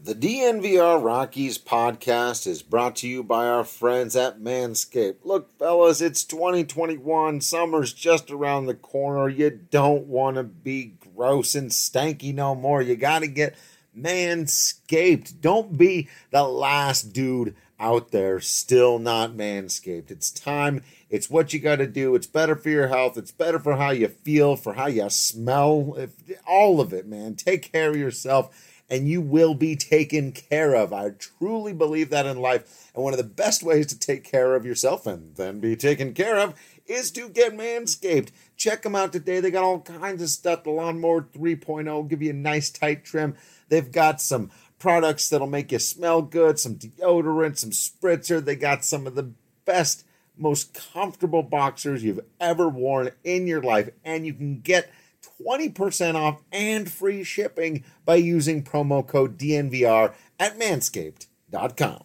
The DNVR Rockies podcast is brought to you by our friends at Manscaped. Look, fellas, it's 2021. Summer's just around the corner. You don't want to be gross and stanky no more. You got to get Manscaped. Don't be the last dude out there still not Manscaped. It's time. It's what you got to do. It's better for your health. It's better for how you feel, for how you smell. All of it, man. Take care of yourself, and you will be taken care of. I truly believe that in life. And one of the best ways to take care of yourself and then be taken care of is to get Manscaped. Check them out today. They got all kinds of stuff. The Lawnmower 3.0 give you a nice tight trim. They've got some products that'll make you smell good, some deodorant, some spritzer. They got some of the best, most comfortable boxers you've ever worn in your life. And you can get 20% off and free shipping by using promo code DNVR at manscaped.com.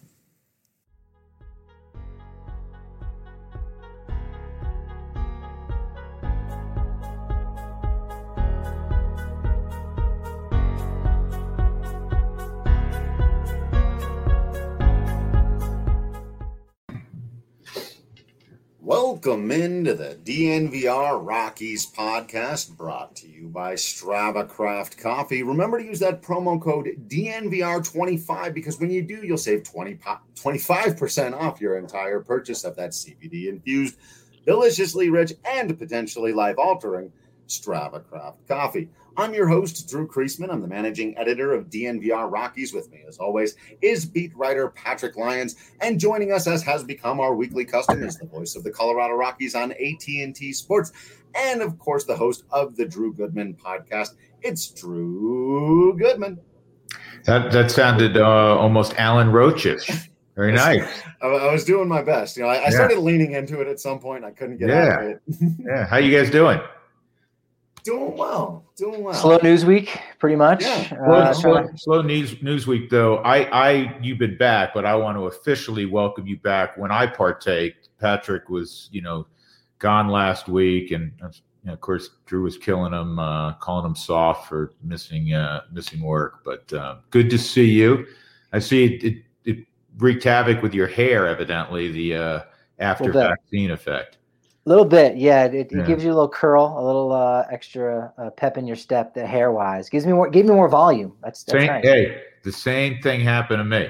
Welcome into the DNVR Rockies podcast, brought to you by Strava Craft Coffee. Remember to use that promo code DNVR25, because when you do, you'll save 25% off your entire purchase of that CBD-infused, deliciously rich, and potentially life-altering Strava Craft Coffee. I'm your host, Drew Kreisman. I'm the managing editor of DNVR Rockies. With me, as always, is beat writer Patrick Lyons. And joining us, as has become our weekly custom, is the voice of the Colorado Rockies on AT&T Sports. And, of course, the host of the Drew Goodman podcast. It's Drew Goodman. That sounded almost Alan Roach-ish. Very nice. I was doing my best. I started leaning into it at some point. I couldn't get out of it. Yeah. How you guys doing? Doing well. Slow news week, pretty much. Yeah. Slow news week, though. You've been back, but I want to officially welcome you back. When I partake, Patrick was, gone last week, and of course Drew was killing him, calling him soft for missing work. But good to see you. I see it wreaked havoc with your hair, evidently, the after vaccine effect. A little bit, yeah. It gives you a little curl, a little extra pep in your step, the hair wise. Gave me more volume. That's nice. Hey, the same thing happened to me.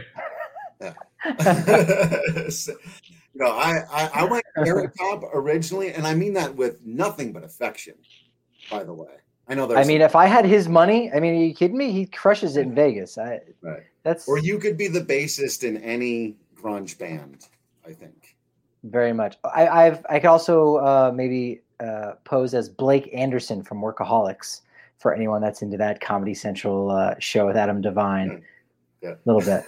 I went Carrot Top originally, and I mean that with nothing but affection. By the way, I know. If I had his money, are you kidding me? He crushes it in Vegas. Right. Or you could be the bassist in any grunge band, I think. Very much. I could also maybe pose as Blake Anderson from Workaholics for anyone that's into that Comedy Central show with Adam Devine. Yeah. A little bit.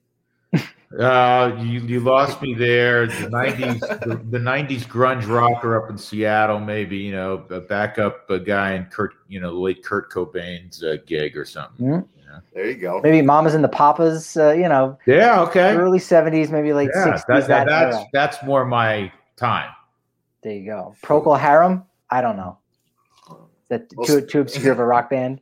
You lost me there. The 90s, the 90s grunge rocker up in Seattle, maybe a backup guy in the late Kurt Cobain's gig or something. Mm-hmm. There you go. Maybe Mamas and the Papas, Yeah, okay. Early 70s, maybe late 60s. That's more my time. There you go. Procol Harum? I don't know. Is that too obscure of a rock band?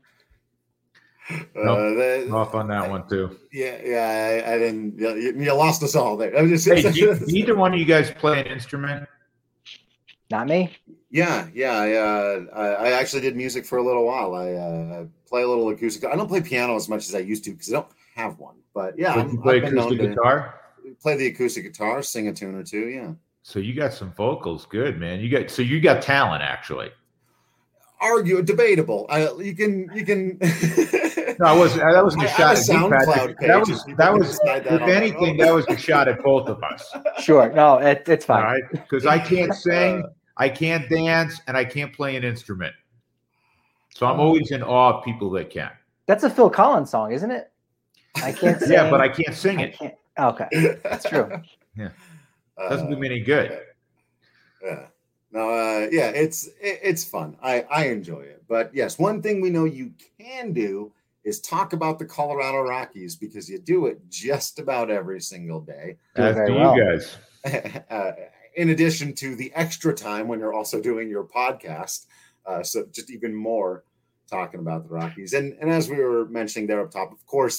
Off on that one, too. Yeah, I didn't. You lost us all there. Either one of you guys play an instrument? Not me. Yeah. I actually did music for a little while. I play a little acoustic. I don't play piano as much as I used to because I don't have one. But yeah, you play acoustic guitar. Play the acoustic guitar, sing a tune or two. Yeah. So you got some vocals, good man. You got talent actually. Debatable. You can. No, that wasn't a shot at SoundCloud page. That was if anything, that was a shot at both of us. Sure. No, it's fine. All right, because I can't sing. I can't dance, and I can't play an instrument. So I'm always in awe of people that can. That's a Phil Collins song, isn't it? I can't sing. Yeah, but I can't sing it. Okay, that's true. Yeah, doesn't do me any good. Yeah. No, it's fun. I enjoy it. But yes, one thing we know you can do is talk about the Colorado Rockies, because you do it just about every single day. As do you guys. In addition to the extra time when you're also doing your podcast. So just even more talking about the Rockies. And as we were mentioning there up top, of course,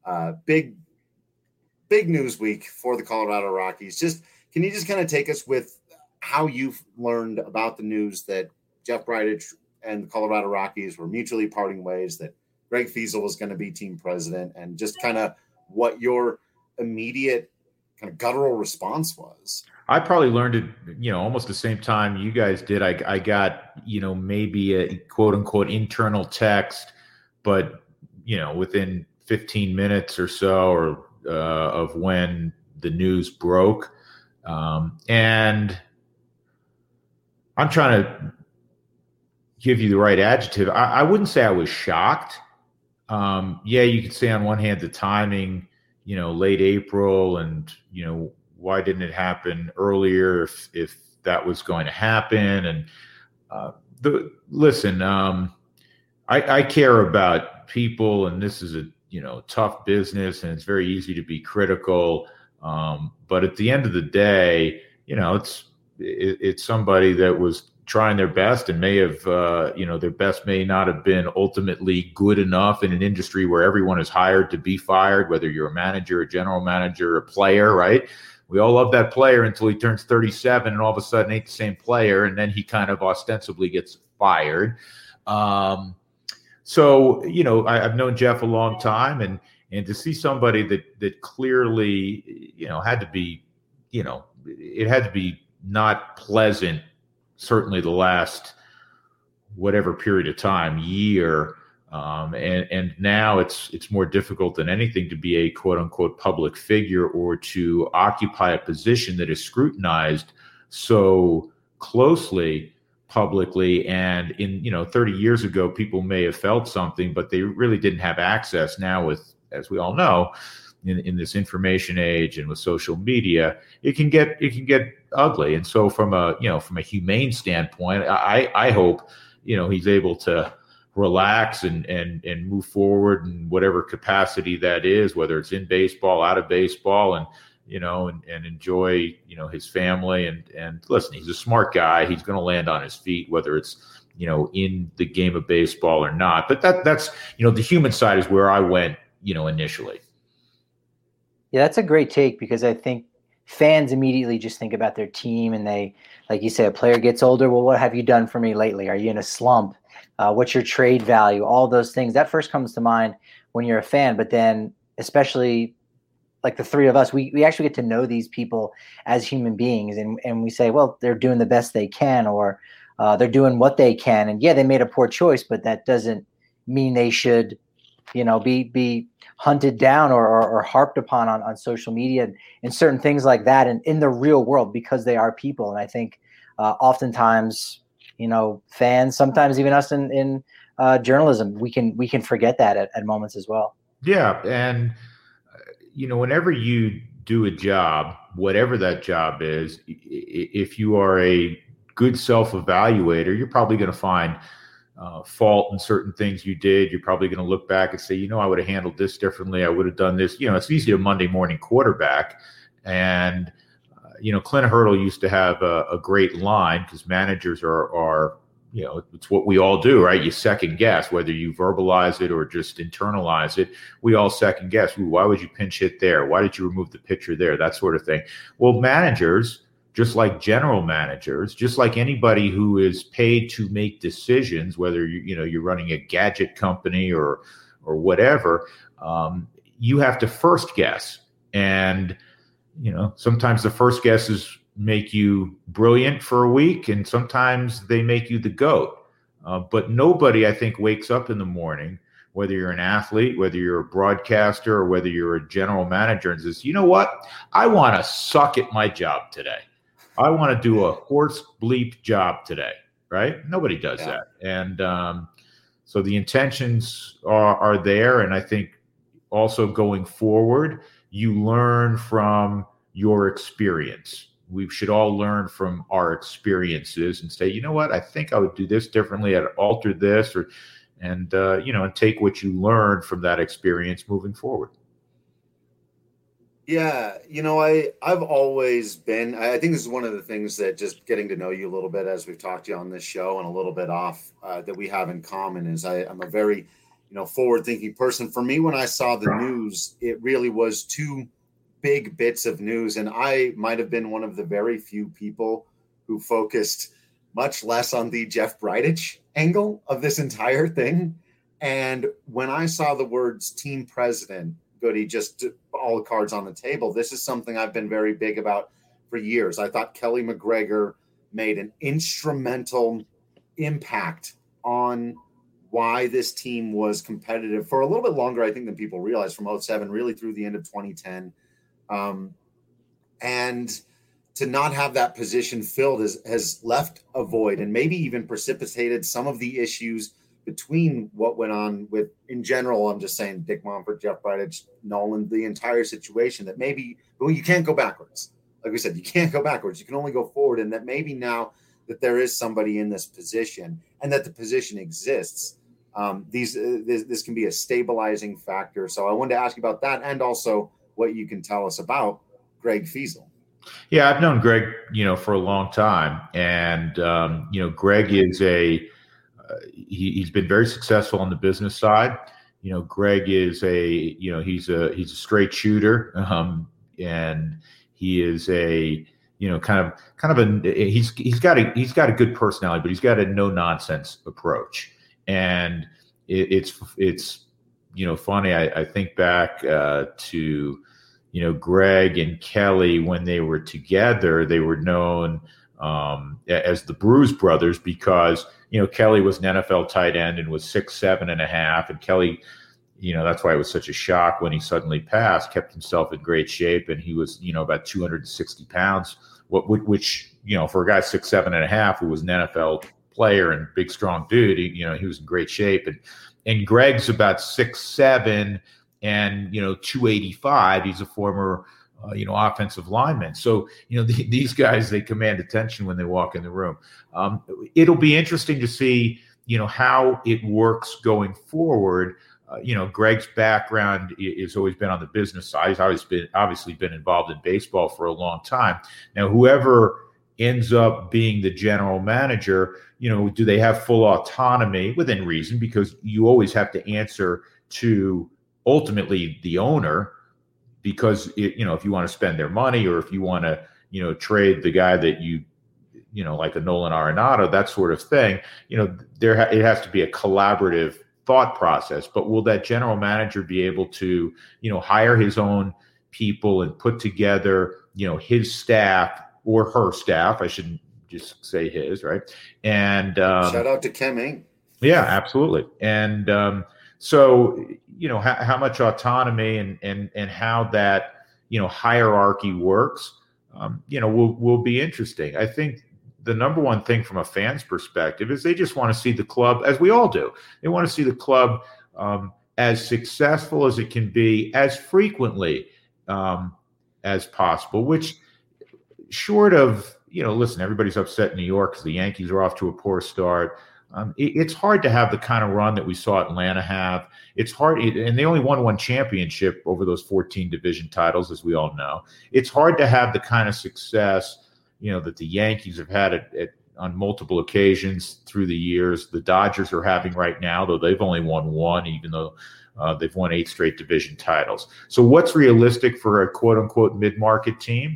Big news week for the Colorado Rockies. Can you just kind of take us with how you've learned about the news that Jeff Bridich and the Colorado Rockies were mutually parting ways, that Greg Fiesel was going to be team president, and just kind of what your immediate kind of guttural response was? I probably learned it, almost the same time you guys did. I got, maybe a quote unquote internal text, but, within 15 minutes or so, or of when the news broke. And I'm trying to give you the right adjective. I wouldn't say I was shocked. You could say on one hand the timing, late April, and why didn't it happen earlier if that was going to happen? And I care about people, and this is a tough business, and it's very easy to be critical. But at the end of the day, it's somebody that was trying their best and may have, their best may not have been ultimately good enough in an industry where everyone is hired to be fired, whether you're a manager, a general manager, a player, right? We all love that player until he turns 37 and all of a sudden ain't the same player, and then he kind of ostensibly gets fired. I've known Jeff a long time, and to see somebody that clearly, had to be, it had to be not pleasant, certainly the last whatever period of time, year. And now it's more difficult than anything to be a quote unquote public figure, or to occupy a position that is scrutinized so closely publicly. And in 30 years ago, people may have felt something, but they really didn't have access. Now, with, as we all know, in this information age and with social media, it can get ugly. And so from a humane standpoint, I hope he's able to relax and move forward in whatever capacity that is, whether it's in baseball, out of baseball, and enjoy his family, and listen, he's a smart guy. He's going to land on his feet, whether it's in the game of baseball or not. But that's the human side is where I went initially. Yeah, that's a great take, because I think fans immediately just think about their team, and they, like you say, a player gets older. Well, what have you done for me lately? Are you in a slump? What's your trade value? All those things that first comes to mind when you're a fan. But then, especially like the three of us, we actually get to know these people as human beings, and we say, well, they're doing the best they can, or they're doing what they can. And yeah, they made a poor choice, but that doesn't mean they should, be hunted down or harped upon on social media and certain things like that, and in the real world, because they are people. And I think oftentimes, fans, sometimes even us in journalism, we can forget that at moments as well. Yeah. And, whenever you do a job, whatever that job is, if you are a good self-evaluator, you're probably going to find fault in certain things you did. You're probably going to look back and say, I would have handled this differently. I would have done this. It's easy to Monday morning quarterback. And, Clint Hurdle used to have a great line, because managers are, it's what we all do, right? You second guess, whether you verbalize it or just internalize it. We all second guess. Why would you pinch hit there? Why did you remove the pitcher there? That sort of thing. Well, managers, just like general managers, just like anybody who is paid to make decisions, whether you're running a gadget company or whatever, you have to first guess. And sometimes the first guesses make you brilliant for a week, and sometimes they make you the GOAT. But nobody, I think, wakes up in the morning, whether you're an athlete, whether you're a broadcaster, or whether you're a general manager, and says, you know what? I want to suck at my job today. I want to do a horse bleep job today, right? Nobody does that. And so the intentions are there. And I think also going forward, you learn from your experience. We should all learn from our experiences and say, you know what, I think I would do this differently. I'd alter this, and take what you learn from that experience moving forward. Yeah, I've always been, I think this is one of the things that, just getting to know you a little bit as we've talked to you on this show and a little bit off, that we have in common, is I'm a very forward-thinking person. For me, when I saw the news, it really was two big bits of news, and I might have been one of the very few people who focused much less on the Jeff Bridich angle of this entire thing. And when I saw the words team president, Goody, just all the cards on the table, this is something I've been very big about for years. I thought Kelly McGregor made an instrumental impact on why this team was competitive for a little bit longer, I think, than people realize, from 2007 really through the end of 2010. And to not have that position filled has left a void and maybe even precipitated some of the issues between what went on with, in general, I'm just saying, Dick Monfort, Jeff Bridich, Nolan, the entire situation, that maybe, well, you can't go backwards. Like we said, you can't go backwards. You can only go forward. And that maybe now that there is somebody in this position and that the position exists, this can be a stabilizing factor. So I wanted to ask you about that, and also what you can tell us about Greg Feasel. Yeah, I've known Greg, for a long time. And, Greg is he's been very successful on the business side. Greg is he's a straight shooter. And he is he's got a good personality, but he's got a no nonsense approach. And it's funny. I think back to, Greg and Kelly, when they were together, they were known as the Bruise Brothers because, Kelly was an NFL tight end and was 6'7.5", and Kelly, that's why it was such a shock when he suddenly passed, kept himself in great shape. And he was, about 260 pounds, which, for a guy 6'7.5", who was an NFL player and big, strong dude, he was in great shape. And Greg's about 6'7" and, 285. He's a former, offensive lineman. So, these guys, they command attention when they walk in the room. It'll be interesting to see, how it works going forward. Greg's background has always been on the business side. He's obviously been involved in baseball for a long time. Now, whoever ends up being the general manager, do they have full autonomy within reason? Because you always have to answer to ultimately the owner, because if you want to spend their money, or if you want to, trade the guy that like a Nolan Arenado, that sort of thing, it has to be a collaborative thought process. But will that general manager be able to, hire his own people and put together, his staff or her staff? I shouldn't just say his, right? And shout out to Kemming. Yeah, absolutely. And so, how much autonomy and how that, hierarchy works, will be interesting. I think the number one thing from a fan's perspective is they just want to see the club, as we all do. They want to see the club as successful as it can be, as frequently as possible, which, short of, listen, everybody's upset in New York because the Yankees are off to a poor start. It's hard to have the kind of run that we saw Atlanta have. It's hard, and they only won one championship over those 14 division titles, as we all know. It's hard to have the kind of success, that the Yankees have had on multiple occasions through the years. The Dodgers are having right now, though they've only won one, even though they've won 8 straight division titles. So what's realistic for a quote-unquote mid-market team?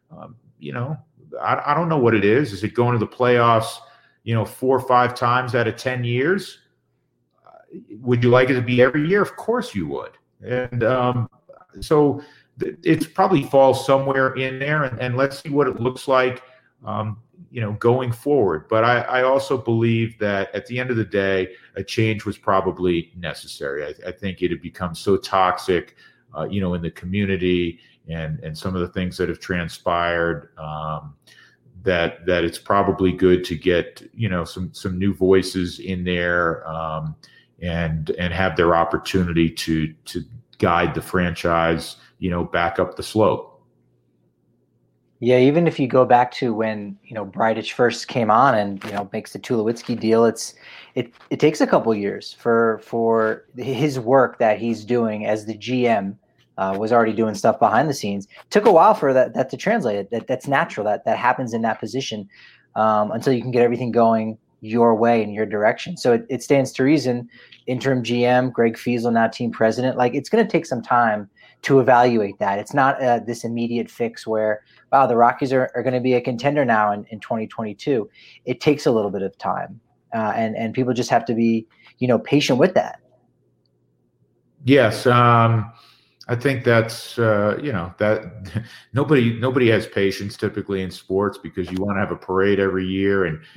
I don't know what it is. Is it going to the playoffs 4 or 5 times out of 10 years? Would you like it to be every year? Of course you would. And so it probably falls somewhere in there, and let's see what it looks like, going forward. But I also believe that at the end of the day, a change was probably necessary. I think it had become so toxic, in the community and some of the things that have transpired, that it's probably good to get, some new voices in there, and have their opportunity to guide the franchise, back up the slope. Yeah, even if you go back to when, Bridich first came on and, makes the Tulowitzki deal, it takes a couple years for his work that he's doing as the GM. Was already doing stuff behind the scenes. Took a while for that to translate. That's natural. That happens in that position until you can get everything going your way in your direction. So it stands to reason, interim GM, Greg Fiesel, now team president, like it's going to take some time to evaluate that. It's not this immediate fix where, wow, the Rockies are going to be a contender now in 2022. It takes a little bit of time. And people just have to be, patient with that. Yes. I think that's, that nobody has patience typically in sports because you want to have a parade every year. And,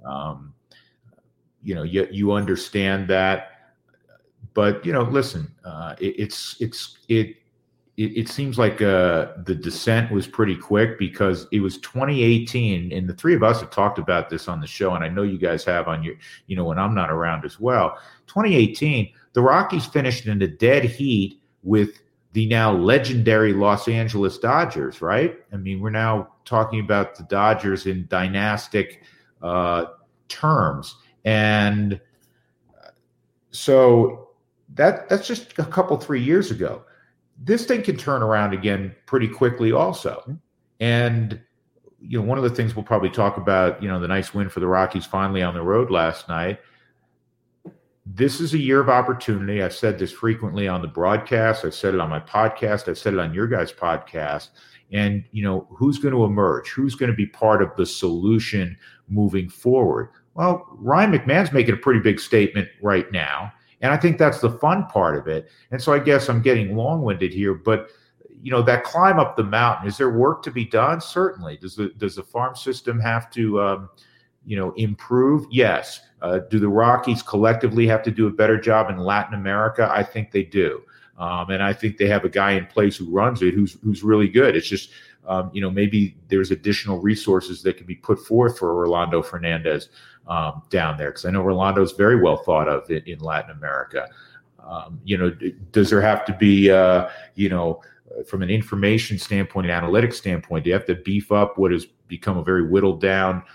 you understand that. But, listen, it seems like the descent was pretty quick because it was 2018, and the three of us have talked about this on the show, and I know you guys have on your, when I'm not around as well. 2018, the Rockies finished in a dead heat with the now legendary Los Angeles Dodgers, right? I mean, we're now talking about the Dodgers in dynastic terms, and so that's just a couple 3 years ago. This thing can turn around again pretty quickly also. And, one of the things we'll probably talk about, the nice win for the Rockies finally on the road last night. This is a year of opportunity. I've said this frequently on the broadcast. I've said it on my podcast. I've said it on your guys' podcast. And, who's going to emerge? Who's going to be part of the solution moving forward? Well, Ryan McMahon's making a pretty big statement right now. And I think that's the fun part of it. And so I guess I'm getting long-winded here, but that climb up the mountain, is there work to be done? Certainly. Does the farm system have to, improve? Yes. Do the Rockies collectively have to do a better job in Latin America? I think they do. And I think they have a guy in place who runs it, who's really good. It's just, maybe there's additional resources that can be put forth for Rolando Fernandez down there, because I know Rolando's very well thought of in Latin America. Does there have to be, from an information standpoint, an analytics standpoint, do you have to beef up what has become a very whittled down,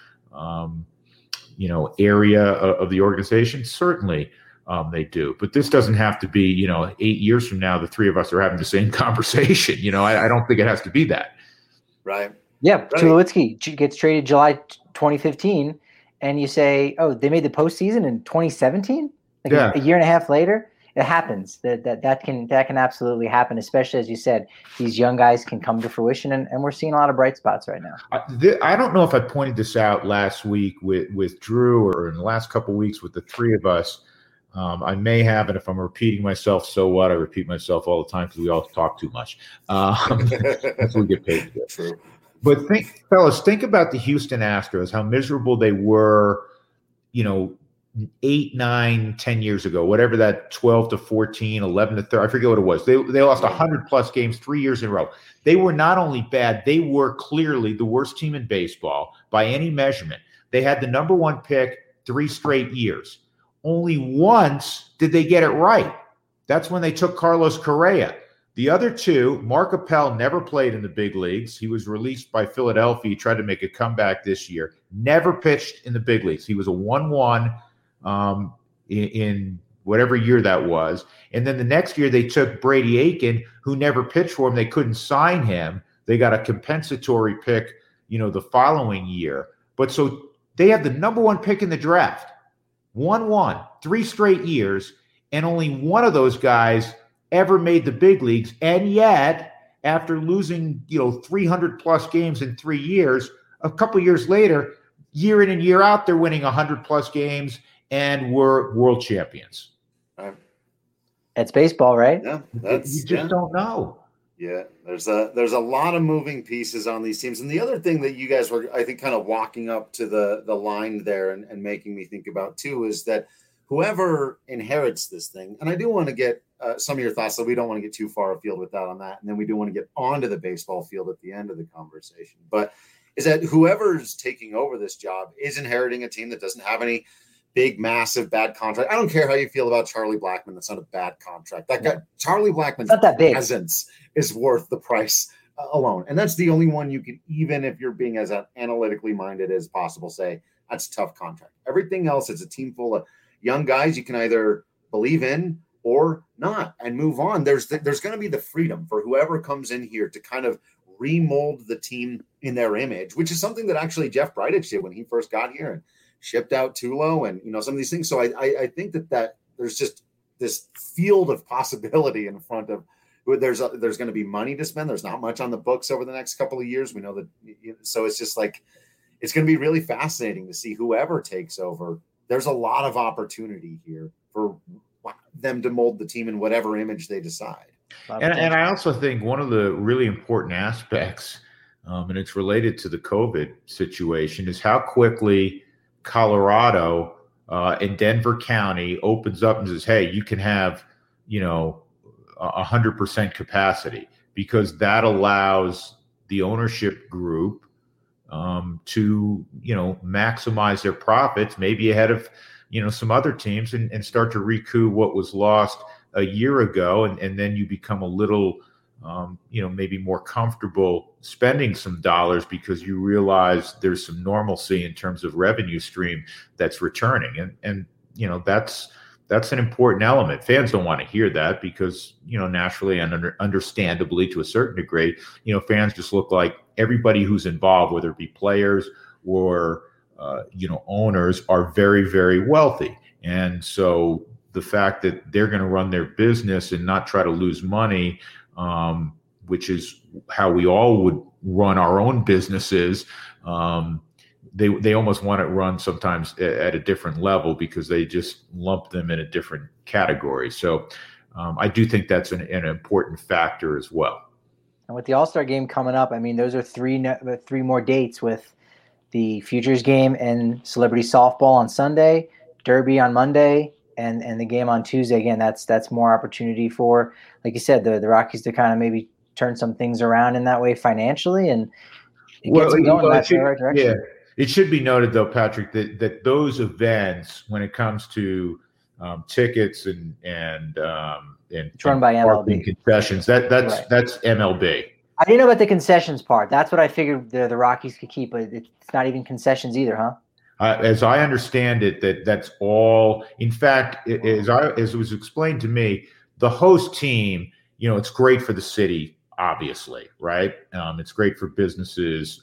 area of the organization? Certainly they do. But this doesn't have to be, 8 years from now, the three of us are having the same conversation. I don't think it has to be that. Right. Yeah. Right. Tulowitzki gets traded July 2015. And you say, oh, they made the postseason in 2017, a year and a half later. It happens. That can absolutely happen, especially as you said, these young guys can come to fruition, and we're seeing a lot of bright spots right now. I don't know if I pointed this out last week with Drew or in the last couple of weeks with the three of us. I may have, and if I'm repeating myself, so what? I repeat myself all the time because we all talk too much. That's what we get paid to do. But think about the Houston Astros, how miserable they were, 8, 9, 10 years ago, whatever that 12 to 14, 11 to 13, I forget what it was. They lost 100 plus games 3 years in a row. They were not only bad, they were clearly the worst team in baseball by any measurement. They had the number one pick 3 straight years. Only once did they get it right. That's when they took Carlos Correa. The other two, Mark Appel never played in the big leagues. He was released by Philadelphia. He tried to make a comeback this year. Never pitched in the big leagues. He was a 1-1 in whatever year that was. And then the next year they took Brady Aiken, who never pitched for him. They couldn't sign him. They got a compensatory pick, the following year. But so they had the number one pick in the draft. 1-1, 3 straight years. And only one of those guys ever made the big leagues. And yet, after losing, 300 plus games in 3 years, a couple years later, year in and year out, they're winning 100 plus games and we're world champions. It's baseball, right? Yeah, you just don't know. Yeah, there's a lot of moving pieces on these teams. And the other thing that you guys were, I think, kind of walking up to the line there and making me think about too is that whoever inherits this thing, and I do want to get some of your thoughts, so we don't want to get too far afield with that on that. And then we do want to get onto the baseball field at the end of the conversation. But is that whoever's taking over this job is inheriting a team that doesn't have any big, massive, bad contract. I don't care how you feel about Charlie Blackmon. That's not a bad contract. That guy, Charlie Blackman's presence is worth the price alone. And that's the only one you can, even if you're being as analytically minded as possible, say that's a tough contract. Everything else is a team full of young guys you can either believe in or not and move on. There's going to be the freedom for whoever comes in here to kind of remold the team in their image, which is something that actually Jeff Bridich did when he first got here. And shipped out Tulo and, some of these things. So I think that there's just this field of possibility in front of. There's going to be money to spend. There's not much on the books over the next couple of years. We know that. So it's just like, it's going to be really fascinating to see whoever takes over. There's a lot of opportunity here for them to mold the team in whatever image they decide. And I also think one of the really important aspects, and it's related to the COVID situation, is how quickly Colorado and Denver County opens up and says, hey, you can have, 100% capacity, because that allows the ownership group to, maximize their profits, maybe ahead of, some other teams and start to recoup what was lost a year ago. And then you become a little, maybe more comfortable spending some dollars because you realize there's some normalcy in terms of revenue stream that's returning. And that's an important element. Fans don't want to hear that because, naturally and understandably to a certain degree, fans just look like everybody who's involved, whether it be players or, owners, are very, very wealthy. And so the fact that they're going to run their business and not try to lose money, which is how we all would run our own businesses, they almost want it run sometimes at a different level because they just lump them in a different category. So I do think that's an important factor as well. And with the All-Star game coming up, I mean, those are three more dates with the Futures game and Celebrity Softball on Sunday, Derby on Monday, and the game on Tuesday. Again, that's more opportunity for, like you said, the Rockies to kind of maybe turn some things around in that way financially and get them going in that right direction. Yeah. It should be noted, though, Patrick, that those events, when it comes to tickets and it's run by MLB concessions, that's MLB. I didn't know about the concessions part. That's what I figured the Rockies could keep, but it's not even concessions either, huh? As I understand it, that's all. In fact, as it was explained to me, the host team, it's great for the city, obviously, right? It's great for businesses.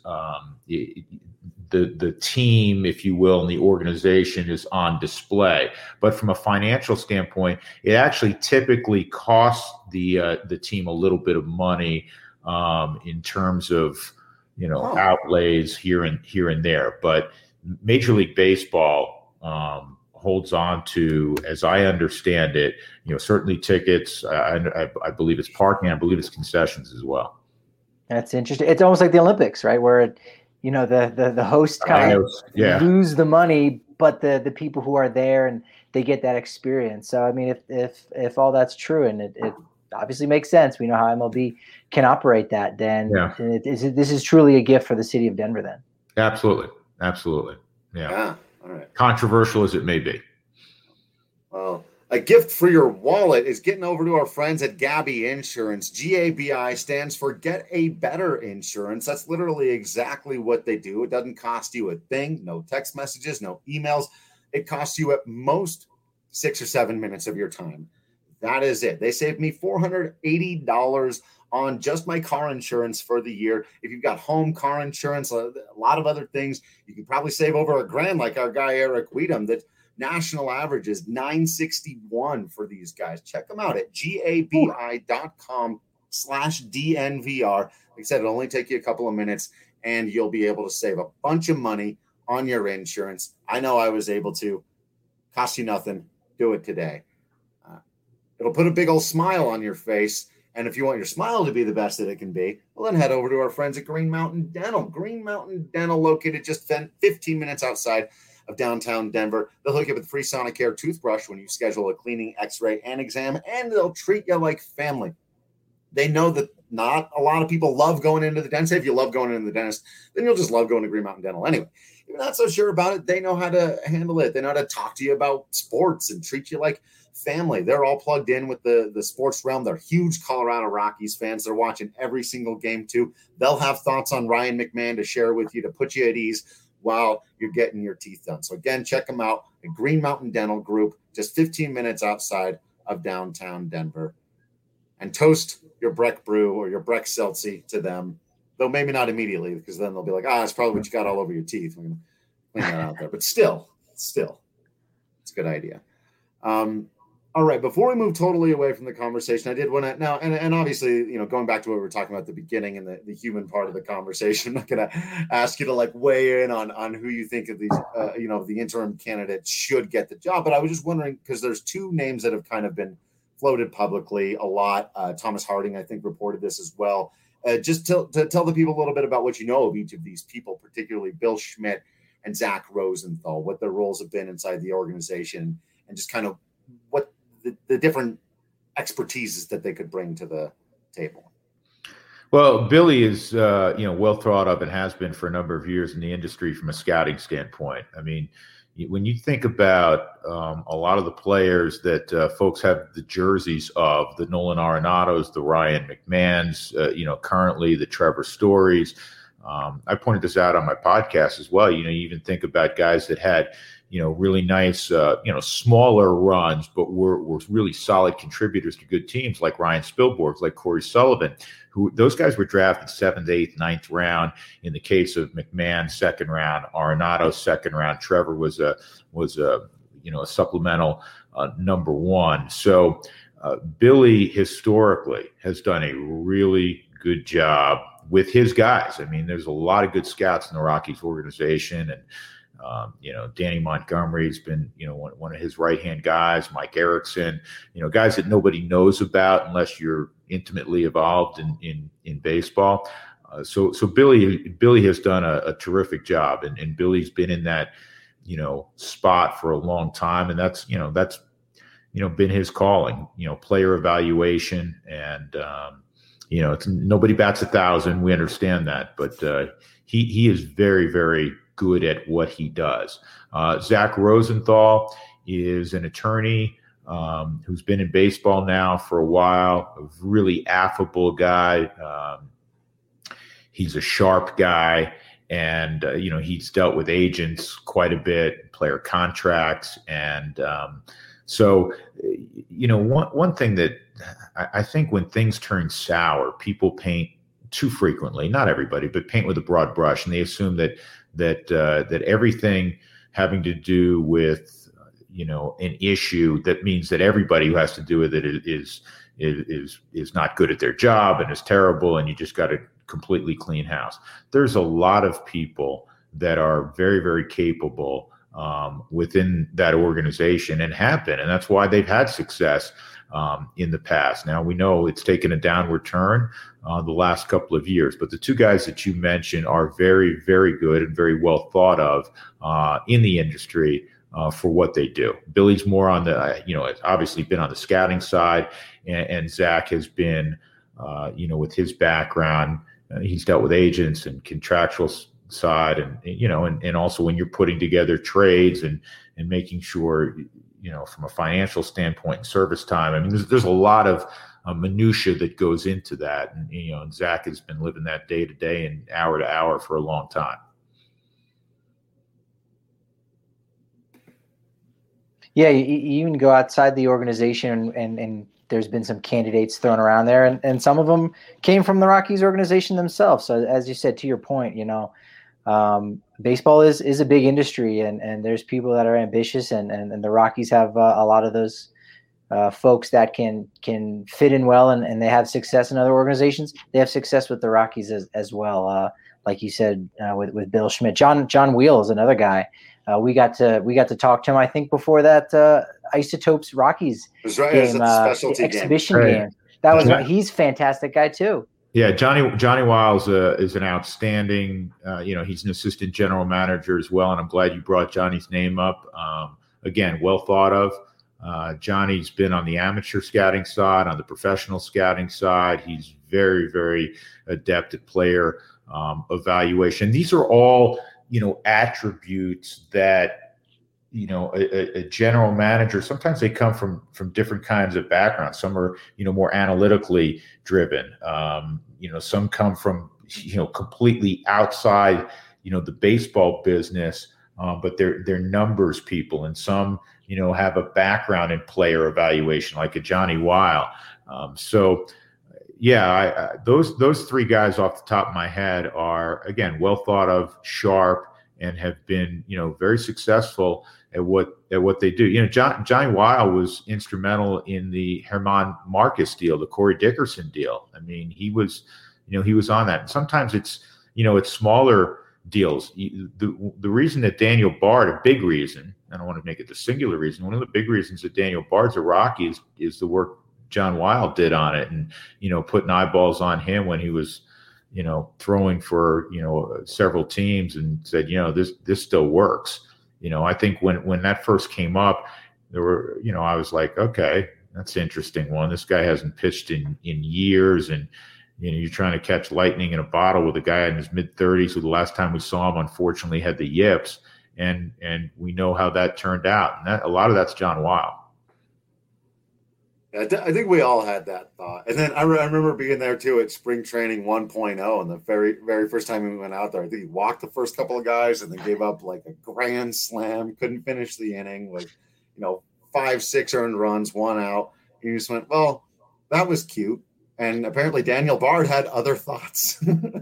The team, if you will, and the organization is on display. But from a financial standpoint, it actually typically costs the team a little bit of money in terms of outlays here and there. But Major League Baseball holds on to, as I understand it, certainly tickets. I believe it's parking. I believe it's concessions as well. That's interesting. It's almost like the Olympics, right? Where the host kind of lose the money, but the people who are there and they get that experience. So I mean, if all that's true, and it obviously makes sense, we know how MLB can operate that. Then this is truly a gift for the city of Denver. Then absolutely, yeah. All right. Controversial as it may be. Well, a gift for your wallet is getting over to our friends at Gabi Insurance. GABI stands for Get a Better Insurance. That's literally exactly what they do. It doesn't cost you a thing, no text messages, no emails. It costs you at most 6 or 7 minutes of your time. That is it. They saved me $480 on just my car insurance for the year. If you've got home, car insurance, a lot of other things, you can probably save over $1,000 like our guy Eric Weedham. That national average is $961 for these guys. Check them out at gabi.com/DNVR. Like I said, it'll only take you a couple of minutes and you'll be able to save a bunch of money on your insurance. I know I was able to. Cost you nothing. Do it today. It'll put a big old smile on your face. And if you want your smile to be the best that it can be, well, then head over to our friends at Green Mountain Dental. Green Mountain Dental, located just 15 minutes outside of downtown Denver. They'll hook you up with free Sonicare toothbrush when you schedule a cleaning, x-ray, and exam, and they'll treat you like family. They know that not a lot of people love going into the dentist. If you love going into the dentist, then you'll just love going to Green Mountain Dental anyway. If you're not so sure about it, they know how to handle it. They know how to talk to you about sports and treat you like family. They're all plugged in with the sports realm. They're huge Colorado Rockies fans. They're watching every single game too. They'll have thoughts on Ryan McMahon to share with you to put you at ease while you're getting your teeth done. So again, check them out at Green Mountain Dental Group, just 15 minutes outside of downtown Denver. And toast your Breck Brew or your Breck Seltzy to them, though maybe not immediately, because then they'll be like, it's probably what you got all over your teeth. putting that out there. But still, it's a good idea. All right, before we move totally away from the conversation, I did want to now, and obviously, going back to what we were talking about at the beginning and the human part of the conversation, I'm not going to ask you to weigh in on who you think of these, the interim candidates should get the job. But I was just wondering, because there's two names that have kind of been floated publicly a lot. Thomas Harding, I think, reported this as well. Just to tell the people a little bit about what you know of each of these people, particularly Bill Schmidt and Zach Rosenthal, what their roles have been inside the organization, and just kind of what the different expertises that they could bring to the table. Well, Billy is, well thought of and has been for a number of years in the industry from a scouting standpoint. I mean, when you think about a lot of the players that folks have the jerseys of, the Nolan Arenados, the Ryan McMahons, currently the Trevor Storys. I pointed this out on my podcast as well. You even think about guys that had really nice, smaller runs, but were really solid contributors to good teams like Ryan Spilborghs, like Corey Sullivan, who those guys were drafted 7th, 8th, 9th round. In the case of McMahon, 2nd round, Arenado, 2nd round. Trevor was a supplemental number 1. So Billy historically has done a really good job with his guys. I mean, there's a lot of good scouts in the Rockies organization, and Danny Montgomery's been, one of his right-hand guys, Mike Erickson, guys that nobody knows about unless you're intimately involved in baseball. So Billy has done a terrific job, and Billy's been in that, spot for a long time. And that's been his calling, player evaluation. And, it's nobody bats 1,000. We understand that, but he is very, very good at what he does. Zach Rosenthal is an attorney who's been in baseball now for a while, a really affable guy. He's a sharp guy, and he's dealt with agents quite a bit, player contracts, and so one thing that I think when things turn sour, people paint too frequently. Not everybody, but paint with a broad brush, and they assume that everything having to do with an issue, that means that everybody who has to do with it is not good at their job and is terrible, and you just got to completely clean house. There's a lot of people that are very, very capable within that organization and have been, and that's why they've had success in the past. Now, we know it's taken a downward turn the last couple of years, but the two guys that you mentioned are very, very good and very well thought of in the industry for what they do. Billy's more on the, has obviously been on the scouting side, and Zach has been, with his background, he's dealt with agents and contractual side, and also when you're putting together trades and making sure, from a financial standpoint and service time. I mean, there's a lot of minutia that goes into that, and Zach has been living that day to day and hour to hour for a long time. Yeah, you even go outside the organization, and there's been some candidates thrown around there, and some of them came from the Rockies organization themselves. So as you said, to your point, baseball is a big industry, and there's people that are ambitious, and the Rockies have a lot of those folks that can fit in well, and they have success in other organizations. They have success with the Rockies as well. Like you said, with Bill Schmidt, John Wheel is another guy. We got to talk to him, I think, before that Isotopes Rockies game, exhibition game. That was he's a fantastic guy too. Yeah, Johnny Wiles is an outstanding. He's an assistant general manager as well, and I'm glad you brought Johnny's name up. Again, well thought of. Johnny's been on the amateur scouting side, on the professional scouting side. He's very, very adept at player evaluation. These are all attributes that a general manager, sometimes they come from different kinds of backgrounds. Some are more analytically driven. Some come from completely outside the baseball business, but they're numbers people, and some have a background in player evaluation, like a Johnny Weil. Those three guys off the top of my head are, again, well thought of, sharp, and have been, very successful at what they do. Johnny Weil was instrumental in the German Marcus deal, the Corey Dickerson deal. I mean, he was on that. And sometimes it's smaller deals. The reason that Daniel Bard, a big reason, I don't want to make it the singular reason, one of the big reasons that Daniel Bard's a Rocky is the work John Weil did on it, and putting eyeballs on him when he was throwing for several teams, and said this still works. I think when that first came up, there were I was like, okay, that's an interesting one. This guy hasn't pitched in years, and you're trying to catch lightning in a bottle with a guy in his mid-30s who the last time we saw him unfortunately had the yips, and we know how that turned out, and a lot of that's John Weil. I think we all had that thought. And then I remember being there too at spring training 1.0, and the very, very first time we went out there, I think he walked the first couple of guys and then gave up like a grand slam, couldn't finish the inning, 5-6 earned runs, 1 out. And you just went, well, that was cute. And apparently Daniel Bard had other thoughts.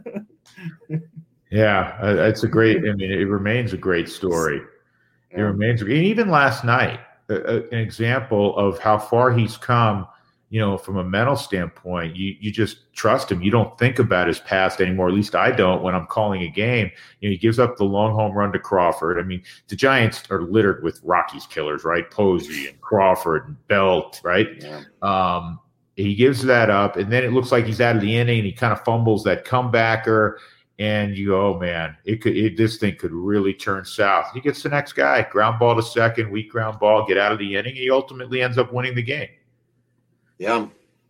Yeah, it's a great, it remains a great story. It remains, and even last night, an example of how far he's come, from a mental standpoint. You just trust him. You don't think about his past anymore. At least I don't when I'm calling a game. He gives up the long home run to Crawford. I mean, the Giants are littered with Rockies killers, right? Posey and Crawford and Belt, right? Yeah. He gives that up, and then it looks like he's out of the inning, and he kind of fumbles that comebacker. And you go, oh man, this thing could really turn south. He gets the next guy, ground ball to second, weak ground ball, get out of the inning. He ultimately ends up winning the game. Yeah,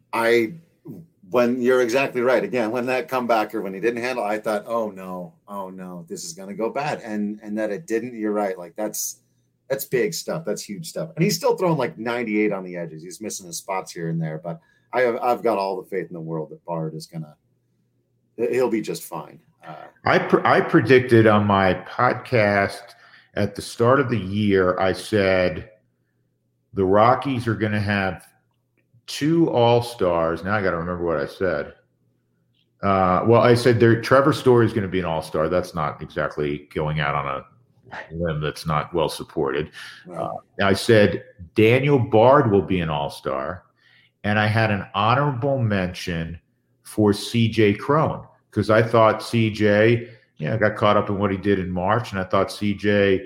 when you're exactly right. Again, when that comebacker, when he didn't handle, I thought, oh no, this is going to go bad, and that it didn't. You're right. Like that's big stuff. That's huge stuff. And he's still throwing like 98 on the edges. He's missing his spots here and there, but I've got all the faith in the world that Bard is he'll be just fine. I predicted on my podcast at the start of the year, I said the Rockies are going to have 2 All-Stars. Now I got to remember what I said. I said Trevor Story is going to be an All-Star. That's not exactly going out on a limb that's not well supported. Right. I said Daniel Bard will be an All-Star, and I had an honorable mention for C.J. Cron, because I thought CJ, got caught up in what he did in March, and I thought CJ,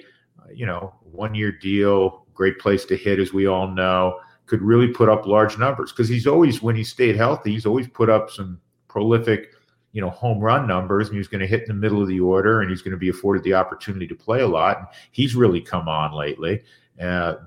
1-year deal, great place to hit, as we all know, could really put up large numbers, because he's always, when he stayed healthy, he's always put up some prolific, home run numbers, and he's going to hit in the middle of the order, and he's going to be afforded the opportunity to play a lot. And he's really come on lately. And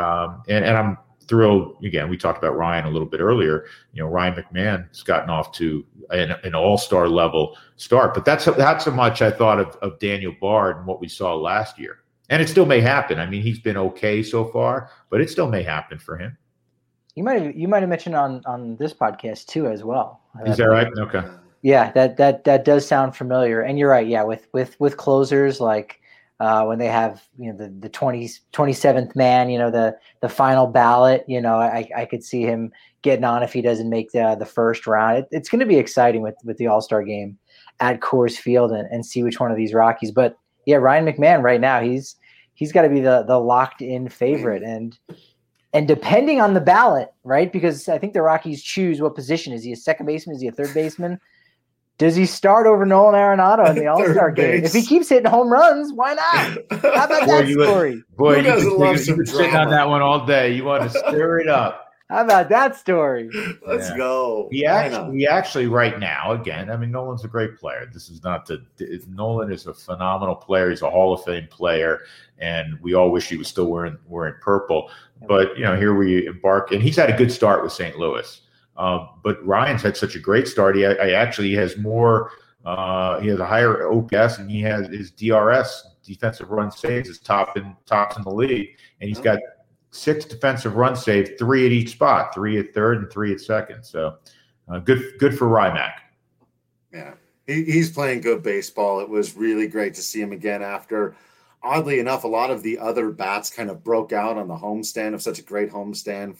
I'm thrilled. Again, we talked about Ryan a little bit earlier. Ryan McMahon has gotten off to an all-star level start, but that's how much I thought of Daniel Bard and what we saw last year. And it still may happen. I mean, he's been okay so far, but it still may happen for him. You might have mentioned on this podcast too as well. Is that right? Okay. Yeah, that does sound familiar. And you're right. Yeah, with closers like when they have the 27th man, the final ballot, I could see him getting on if he doesn't make the first round. It's going to be exciting with the All-Star game at Coors Field and see which one of these Rockies. But yeah, Ryan McMahon right now, he's got to be the locked in favorite, and depending on the ballot, right? Because I think the Rockies choose what position. Is he a second baseman? Is he a third baseman? Does he start over Nolan Arenado in the All-Star game? If he keeps hitting home runs, why not? How about that story? You could sit on that one all day. You want to stir it up. How about that story? Let's go. He actually right now, again, I mean, Nolan's a great player. This is not Nolan is a phenomenal player. He's a Hall of Fame player, and we all wish he was still wearing purple. But, here we embark, and he's had a good start with St. Louis. But Ryan's had such a great start. He has more. He has a higher OPS, and he has his DRS, defensive run saves, is tops in the league, and he's got 6 defensive run saves, 3 at each spot, 3 at third and 3 at second. So good for Rymack. Yeah, he's playing good baseball. It was really great to see him again after, oddly enough, a lot of the other bats kind of broke out on the homestand of such a great homestand for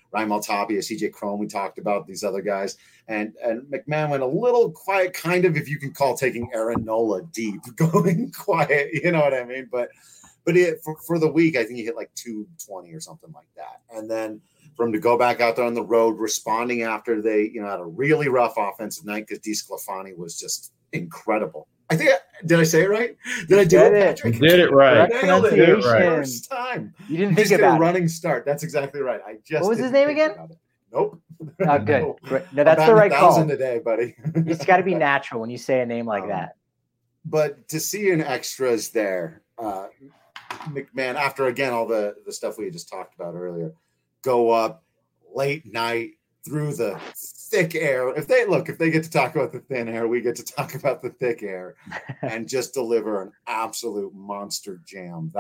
Raimel Tapia, CJ Cron, we talked about these other guys. And McMahon went a little quiet, kind of, if you can call taking Aaron Nola deep, going quiet, you know what I mean? But for the week, I think he hit like 220 or something like that. And then for him to go back out there on the road, responding after they, had a really rough offensive night because DeSclafani was just incredible. I think, did I say it right? Did I do it, Patrick? You did it right. Nailed it. First time. You didn't think about a running start. That's exactly right. What was his name again? Nope. Oh, good. No, that's the right call. 1,000 a day, buddy. It's got to be natural when you say a name like that. But to see an extras there, McMahon, after again all the stuff we just talked about earlier, go up late night through the thick air. If they get to talk about the thin air, we get to talk about the thick air, and just deliver an absolute monster jam.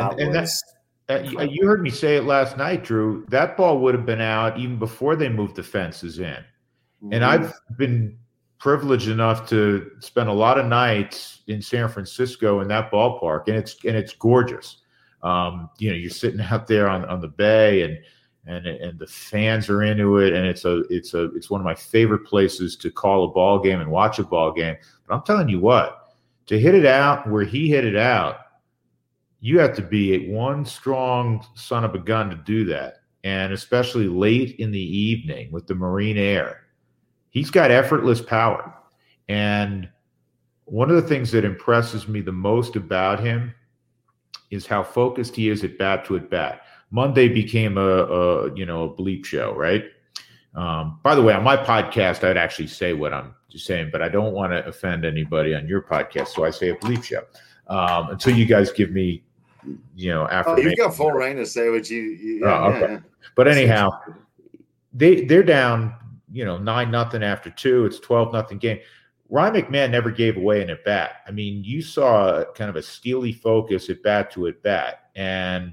You heard me say it last night, Drew. That ball would have been out even before they moved the fences in. Mm-hmm. And I've been privileged enough to spend a lot of nights in San Francisco in that ballpark, and it's gorgeous. You're sitting out there on the bay, and the fans are into it, and it's one of my favorite places to call a ball game and watch a ball game. But I'm telling you what, to hit it out where he hit it out, you have to be one strong son of a gun to do that, and especially late in the evening with the marine air. He's got effortless power, and one of the things that impresses me the most about him is how focused he is at bat to at bat. Monday became a bleep show, right? By the way, on my podcast, I'd actually say what I'm just saying, but I don't want to offend anybody on your podcast, so I say a bleep show until you guys give me, affirmation. You've got full reign to say what you. Okay. Yeah. But anyhow, they're down, 9-0 after 2. It's 12-0 game. Ryan McMahon never gave away an at bat. I mean, you saw kind of a steely focus at bat to at bat, and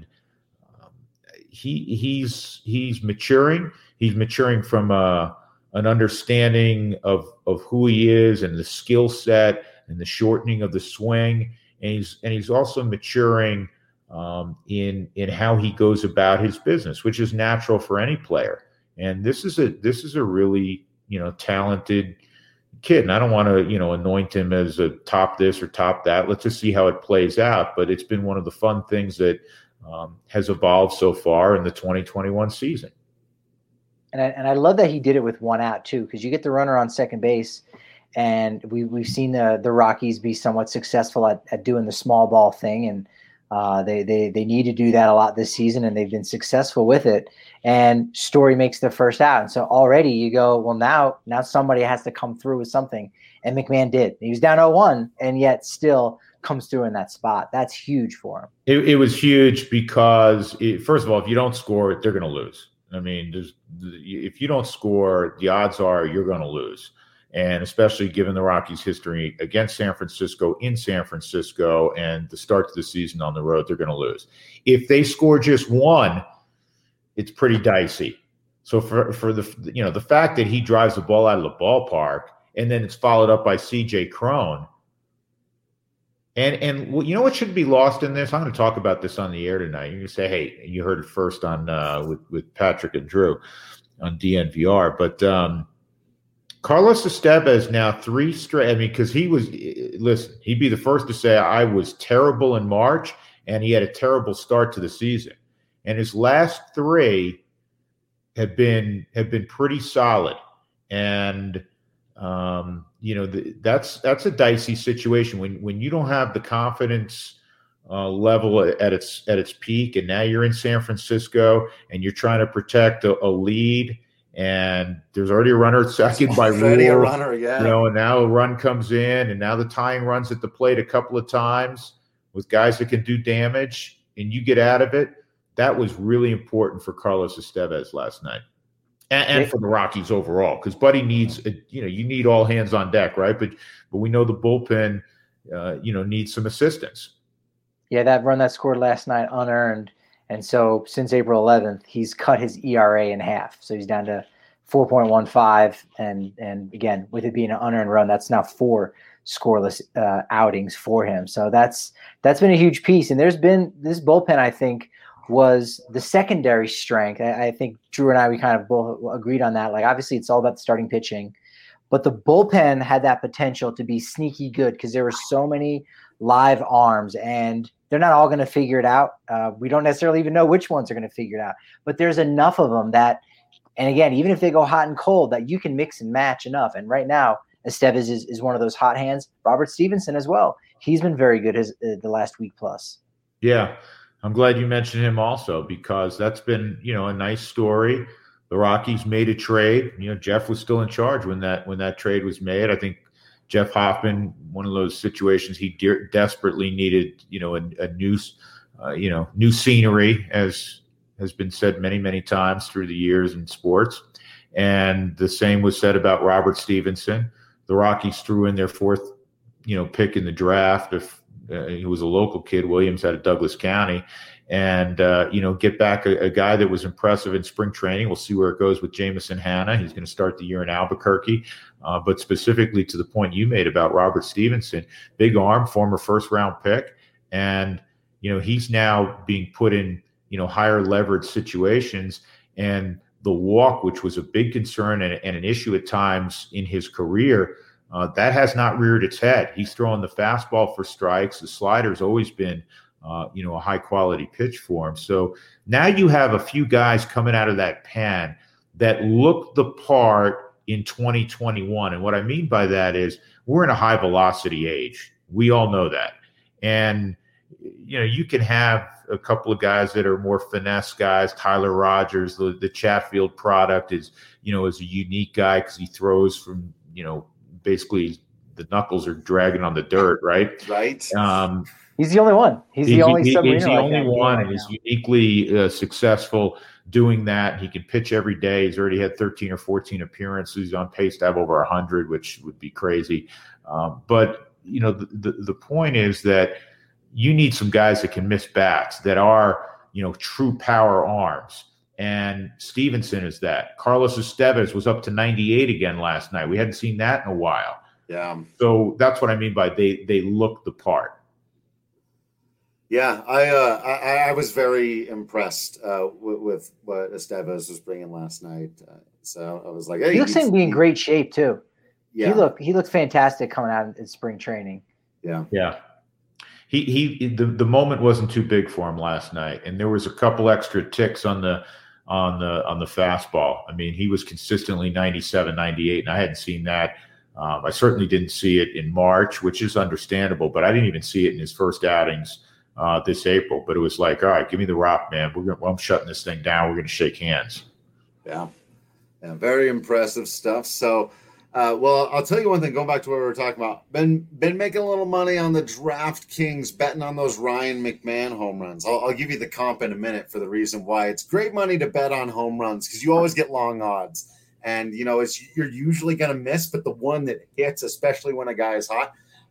he's maturing. He's maturing from an understanding of who he is and the skill set and the shortening of the swing, and he's also maturing in how he goes about his business, which is natural for any player. And this is a really talented kid, and I don't want to anoint him as a top this or top that. Let's just see how it plays out. But it's been one of the fun things that has evolved so far in the 2021 season. And I love that he did it with one out too, because you get the runner on second base, and we've seen the Rockies be somewhat successful at doing the small ball thing, and they need to do that a lot this season, and they've been successful with it. And Story makes the first out, and so already you go, well, now somebody has to come through with something, and McMahon did. He was down 0-1, and yet still comes through in that spot. That's huge for him. It was huge because, first of all, if you don't score, they're going to lose. I mean, if you don't score, the odds are you're going to lose. And especially given the Rockies' history against San Francisco, in San Francisco, and the start to the season on the road, they're going to lose. If they score just one, it's pretty dicey. So for the fact that he drives the ball out of the ballpark, and then it's followed up by CJ Cron, and what should be lost in this? I'm going to talk about this on the air tonight. You're going to say, hey, you heard it first on with Patrick and Drew on DNVR, but Carlos Estevez now 3 straight. I mean, because he'd be the first to say I was terrible in March, and he had a terrible start to the season. And his last 3 have been pretty solid. And that's a dicey situation when you don't have the confidence level at its peak, and now you're in San Francisco and you're trying to protect a lead. And there's already a runner at second by rule. A runner, yeah. And now a run comes in, and now the tying runs at the plate a couple of times with guys that can do damage, and you get out of it. That was really important for Carlos Estevez last night, and for the Rockies overall, because Buddy needs you need all hands on deck, right? But we know the bullpen needs some assistance. Yeah, that run that scored last night unearned. And so since April 11th, he's cut his ERA in half. So he's down to 4.15. And again, with it being an unearned run, that's now 4 scoreless outings for him. So that's been a huge piece. And there's been this bullpen, I think, was the secondary strength. I think Drew and we kind of both agreed on that. Like, obviously, it's all about the starting pitching, but the bullpen had that potential to be sneaky good because there were so many live arms, and they're not all going to figure it out. We don't necessarily even know which ones are going to figure it out, but there's enough of them that, and again, even if they go hot and cold, that you can mix and match enough. And right now, Estevez is one of those hot hands. Robert Stevenson as well. He's been very good the last week plus. Yeah, I'm glad you mentioned him also, because that's been, a nice story. The Rockies made a trade. Jeff was still in charge when that trade was made. I think Jeff Hoffman, one of those situations he desperately needed, a new scenery, as has been said many, many times through the years in sports. And the same was said about Robert Stevenson. The Rockies threw in their fourth, pick in the draft. He was a local kid, Williams, out of Douglas County, and get back a guy that was impressive in spring training. We'll see where it goes with Jameson Hanna. He's going to start the year in Albuquerque. But specifically to the point you made about Robert Stevenson, big arm, former first-round pick, and he's now being put in higher leverage situations. And the walk, which was a big concern and an issue at times in his career, that has not reared its head. He's throwing the fastball for strikes. The slider's always been, a high-quality pitch for him. So now you have a few guys coming out of that pen that look the part in 2021. And what I mean by that is we're in a high-velocity age. We all know that. And, you can have a couple of guys that are more finesse guys. Tyler Rogers, the Chatfield product is a unique guy because he throws from, basically the knuckles are dragging on the dirt, right? Right. He's the only one. He's the only one, and he's uniquely successful doing that. He can pitch every day. He's already had 13 or 14 appearances. He's on pace to have over 100, which would be crazy. But the point is that you need some guys that can miss bats, that are true power arms. And Stevenson is that. Carlos Estevez was up to 98 again last night. We hadn't seen that in a while. Yeah. So that's what I mean by they look the part. Yeah, I was very impressed with what Estevez was bringing last night. So I was like, hey, he looks to be in great shape too. Yeah, he looked fantastic coming out in spring training. Yeah. The moment wasn't too big for him last night, and there was a couple extra ticks on the fastball. I mean, he was consistently 97, 98, and I hadn't seen that. I certainly didn't see it in March, which is understandable, but I didn't even see it in his first outings this April. But it was like, all right, give me the rock, man. I'm shutting this thing down. We're going to shake hands. Yeah, very impressive stuff. So, well, I'll tell you one thing. Going back to what we were talking about, been making a little money on the DraftKings, betting on those Ryan McMahon home runs. I'll give you the comp in a minute for the reason why it's great money to bet on home runs, because you always get long odds, and you're usually going to miss, but the one that hits, especially when a guy is hot,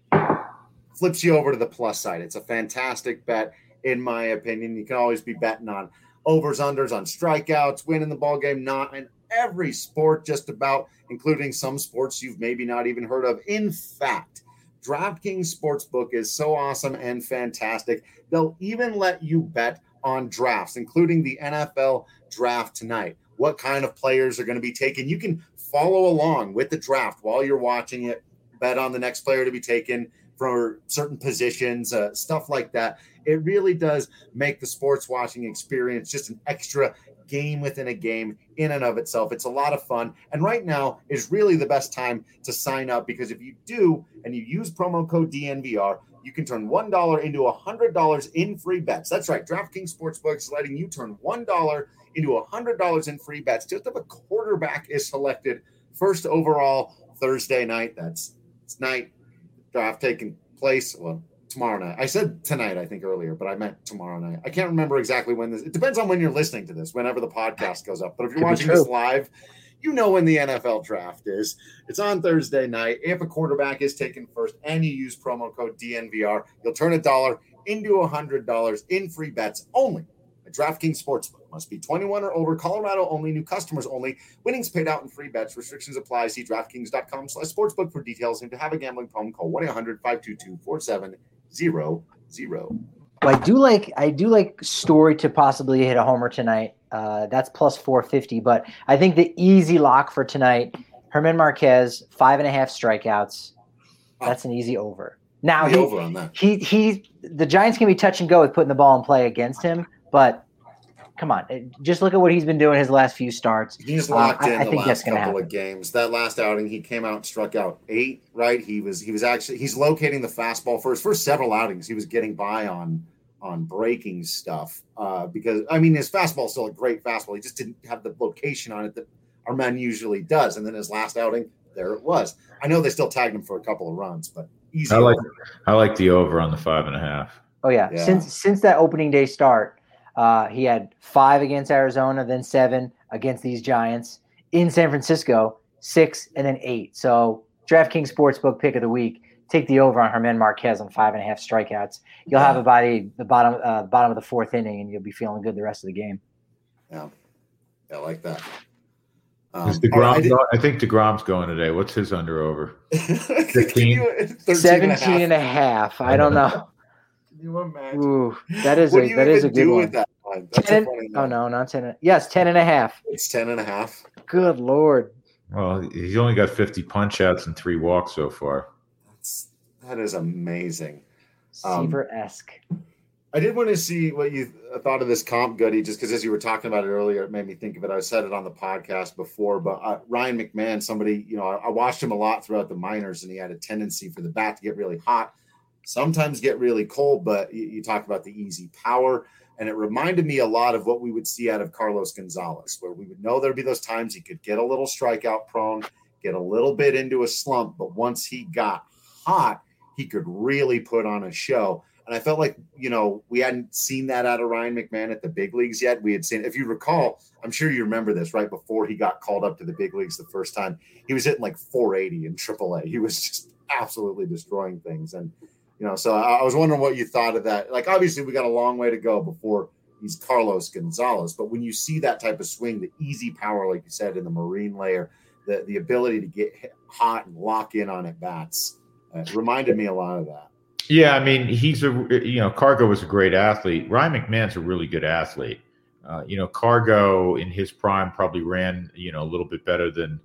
flips you over to the plus side. It's a fantastic bet, in my opinion. You can always be betting on overs, unders, on strikeouts, winning the ball game, not in every sport, just about, including some sports you've maybe not even heard of. In fact, DraftKings Sportsbook is so awesome and fantastic. They'll even let you bet on drafts, including the NFL draft tonight. What kind of players are going to be taken? You can follow along with the draft while you're watching it, bet on the next player to be taken for certain positions, stuff like that. It really does make the sports watching experience just an extra game within a game in and of itself. It's a lot of fun. And right now is really the best time to sign up, because if you do and you use promo code DNVR, you can turn $1 into $100 in free bets. That's right. DraftKings Sportsbook is letting you turn $1 into $100 in free bets just if a quarterback is selected first overall Thursday night. That's tonight. Draft taking place, well, tomorrow night. I said tonight, I think, earlier, but I meant tomorrow night. I can't remember exactly when this. It depends on when you're listening to this, whenever the podcast goes up. But if you're watching this live, you know when the NFL draft is. It's on Thursday night. If a quarterback is taken first and you use promo code DNVR, you'll turn $1 into $100 in free bets only at DraftKings Sportsbook. Must be 21 or older. Colorado only. New customers only. Winnings paid out in free bets. Restrictions apply. See DraftKings.com/sportsbook for details. And to have a gambling problem, call 1-800-522-4700. Well, I do like Story to possibly hit a homer tonight. That's plus 450. But I think the easy lock for tonight, German Marquez, 5.5 strikeouts. That's an easy over. Now over on that. The Giants can be touch and go with putting the ball in play against him, but come on, just look at what he's been doing his last few starts. He's locked in the last couple of games. That last outing, he came out and struck out 8. Right, he's locating the fastball for his first several outings. He was getting by on breaking stuff because his fastball is still a great fastball. He just didn't have the location on it that our man usually does. And then his last outing, there it was. I know they still tagged him for a couple of runs, but easy. I like the over on the 5.5. Oh yeah. Since that opening day start, he had 5 against Arizona, then 7 against these Giants in San Francisco, 6 and then 8. So DraftKings Sportsbook pick of the week. Take the over on German Marquez on 5.5 strikeouts. You'll have about the bottom of the 4th inning, and you'll be feeling good the rest of the game. Yeah, I like that. Is DeGrom I think DeGrom's going today. What's his under over? 15? 17 and a half. I don't know. Can you imagine? Ooh, that is a good one. With that one? 10, oh no, not 10. Yes, 10 and a half. It's 10 and a half. Good Lord. Well, he's only got 50 punch outs and 3 walks so far. That is amazing. Seaver-esque. I did want to see what you thought of this comp, Goody, just because as you were talking about it earlier, it made me think of it. I said it on the podcast before, but Ryan McMahon, somebody, I watched him a lot throughout the minors, and he had a tendency for the bat to get really hot, sometimes get really cold, but you talk about the easy power, and it reminded me a lot of what we would see out of Carlos Gonzalez, where we would know there'd be those times he could get a little strikeout prone, get a little bit into a slump, but once he got hot, he could really put on a show. And I felt like, we hadn't seen that out of Ryan McMahon at the big leagues yet. We had seen, if you recall, I'm sure you remember this, right before he got called up to the big leagues the first time, he was hitting like 480 in AAA. He was just absolutely destroying things. And, so I was wondering what you thought of that. Like, obviously we got a long way to go before he's Carlos Gonzalez, but when you see that type of swing, the easy power, like you said, in the marine layer, the ability to get hot and lock in on at bats, reminded me a lot of that. Yeah, he's Cargo was a great athlete. Ryan McMahon's a really good athlete. Cargo in his prime probably ran, a little bit better than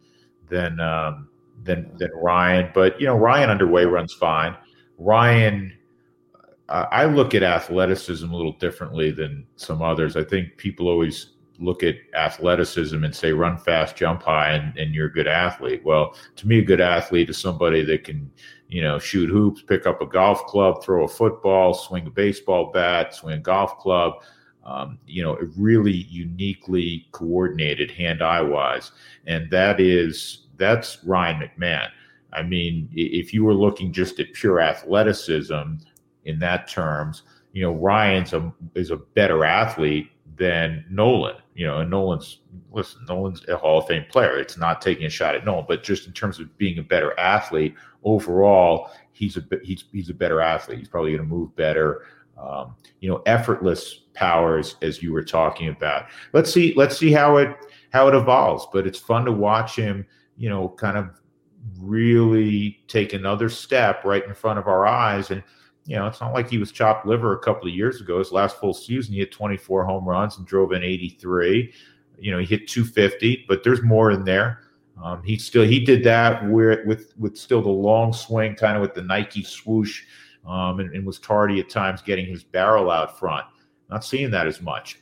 Ryan, but Ryan underway runs fine. Ryan, I look at athleticism a little differently than some others. I think people always look at athleticism and say run fast, jump high, and you're a good athlete. Well, to me, a good athlete is somebody that can, shoot hoops, pick up a golf club, throw a football, swing a baseball bat, swing a golf club, really uniquely coordinated hand-eye wise. And that's Ryan McMahon. If you were looking just at pure athleticism in that terms, Ryan's is a better athlete than Nolan. And Nolan's a Hall of Fame player. It's not taking a shot at Nolan, but just in terms of being a better athlete overall, he's a better athlete. He's probably going to move better. Effortless powers, as you were talking about. Let's see how it evolves. But it's fun to watch him, kind of really take another step right in front of our eyes. And it's not like he was chopped liver a couple of years ago. His last full season, he hit 24 home runs and drove in 83. He hit 250, but there's more in there. He did that with still the long swing, kind of with the Nike swoosh, and was tardy at times getting his barrel out front. Not seeing that as much.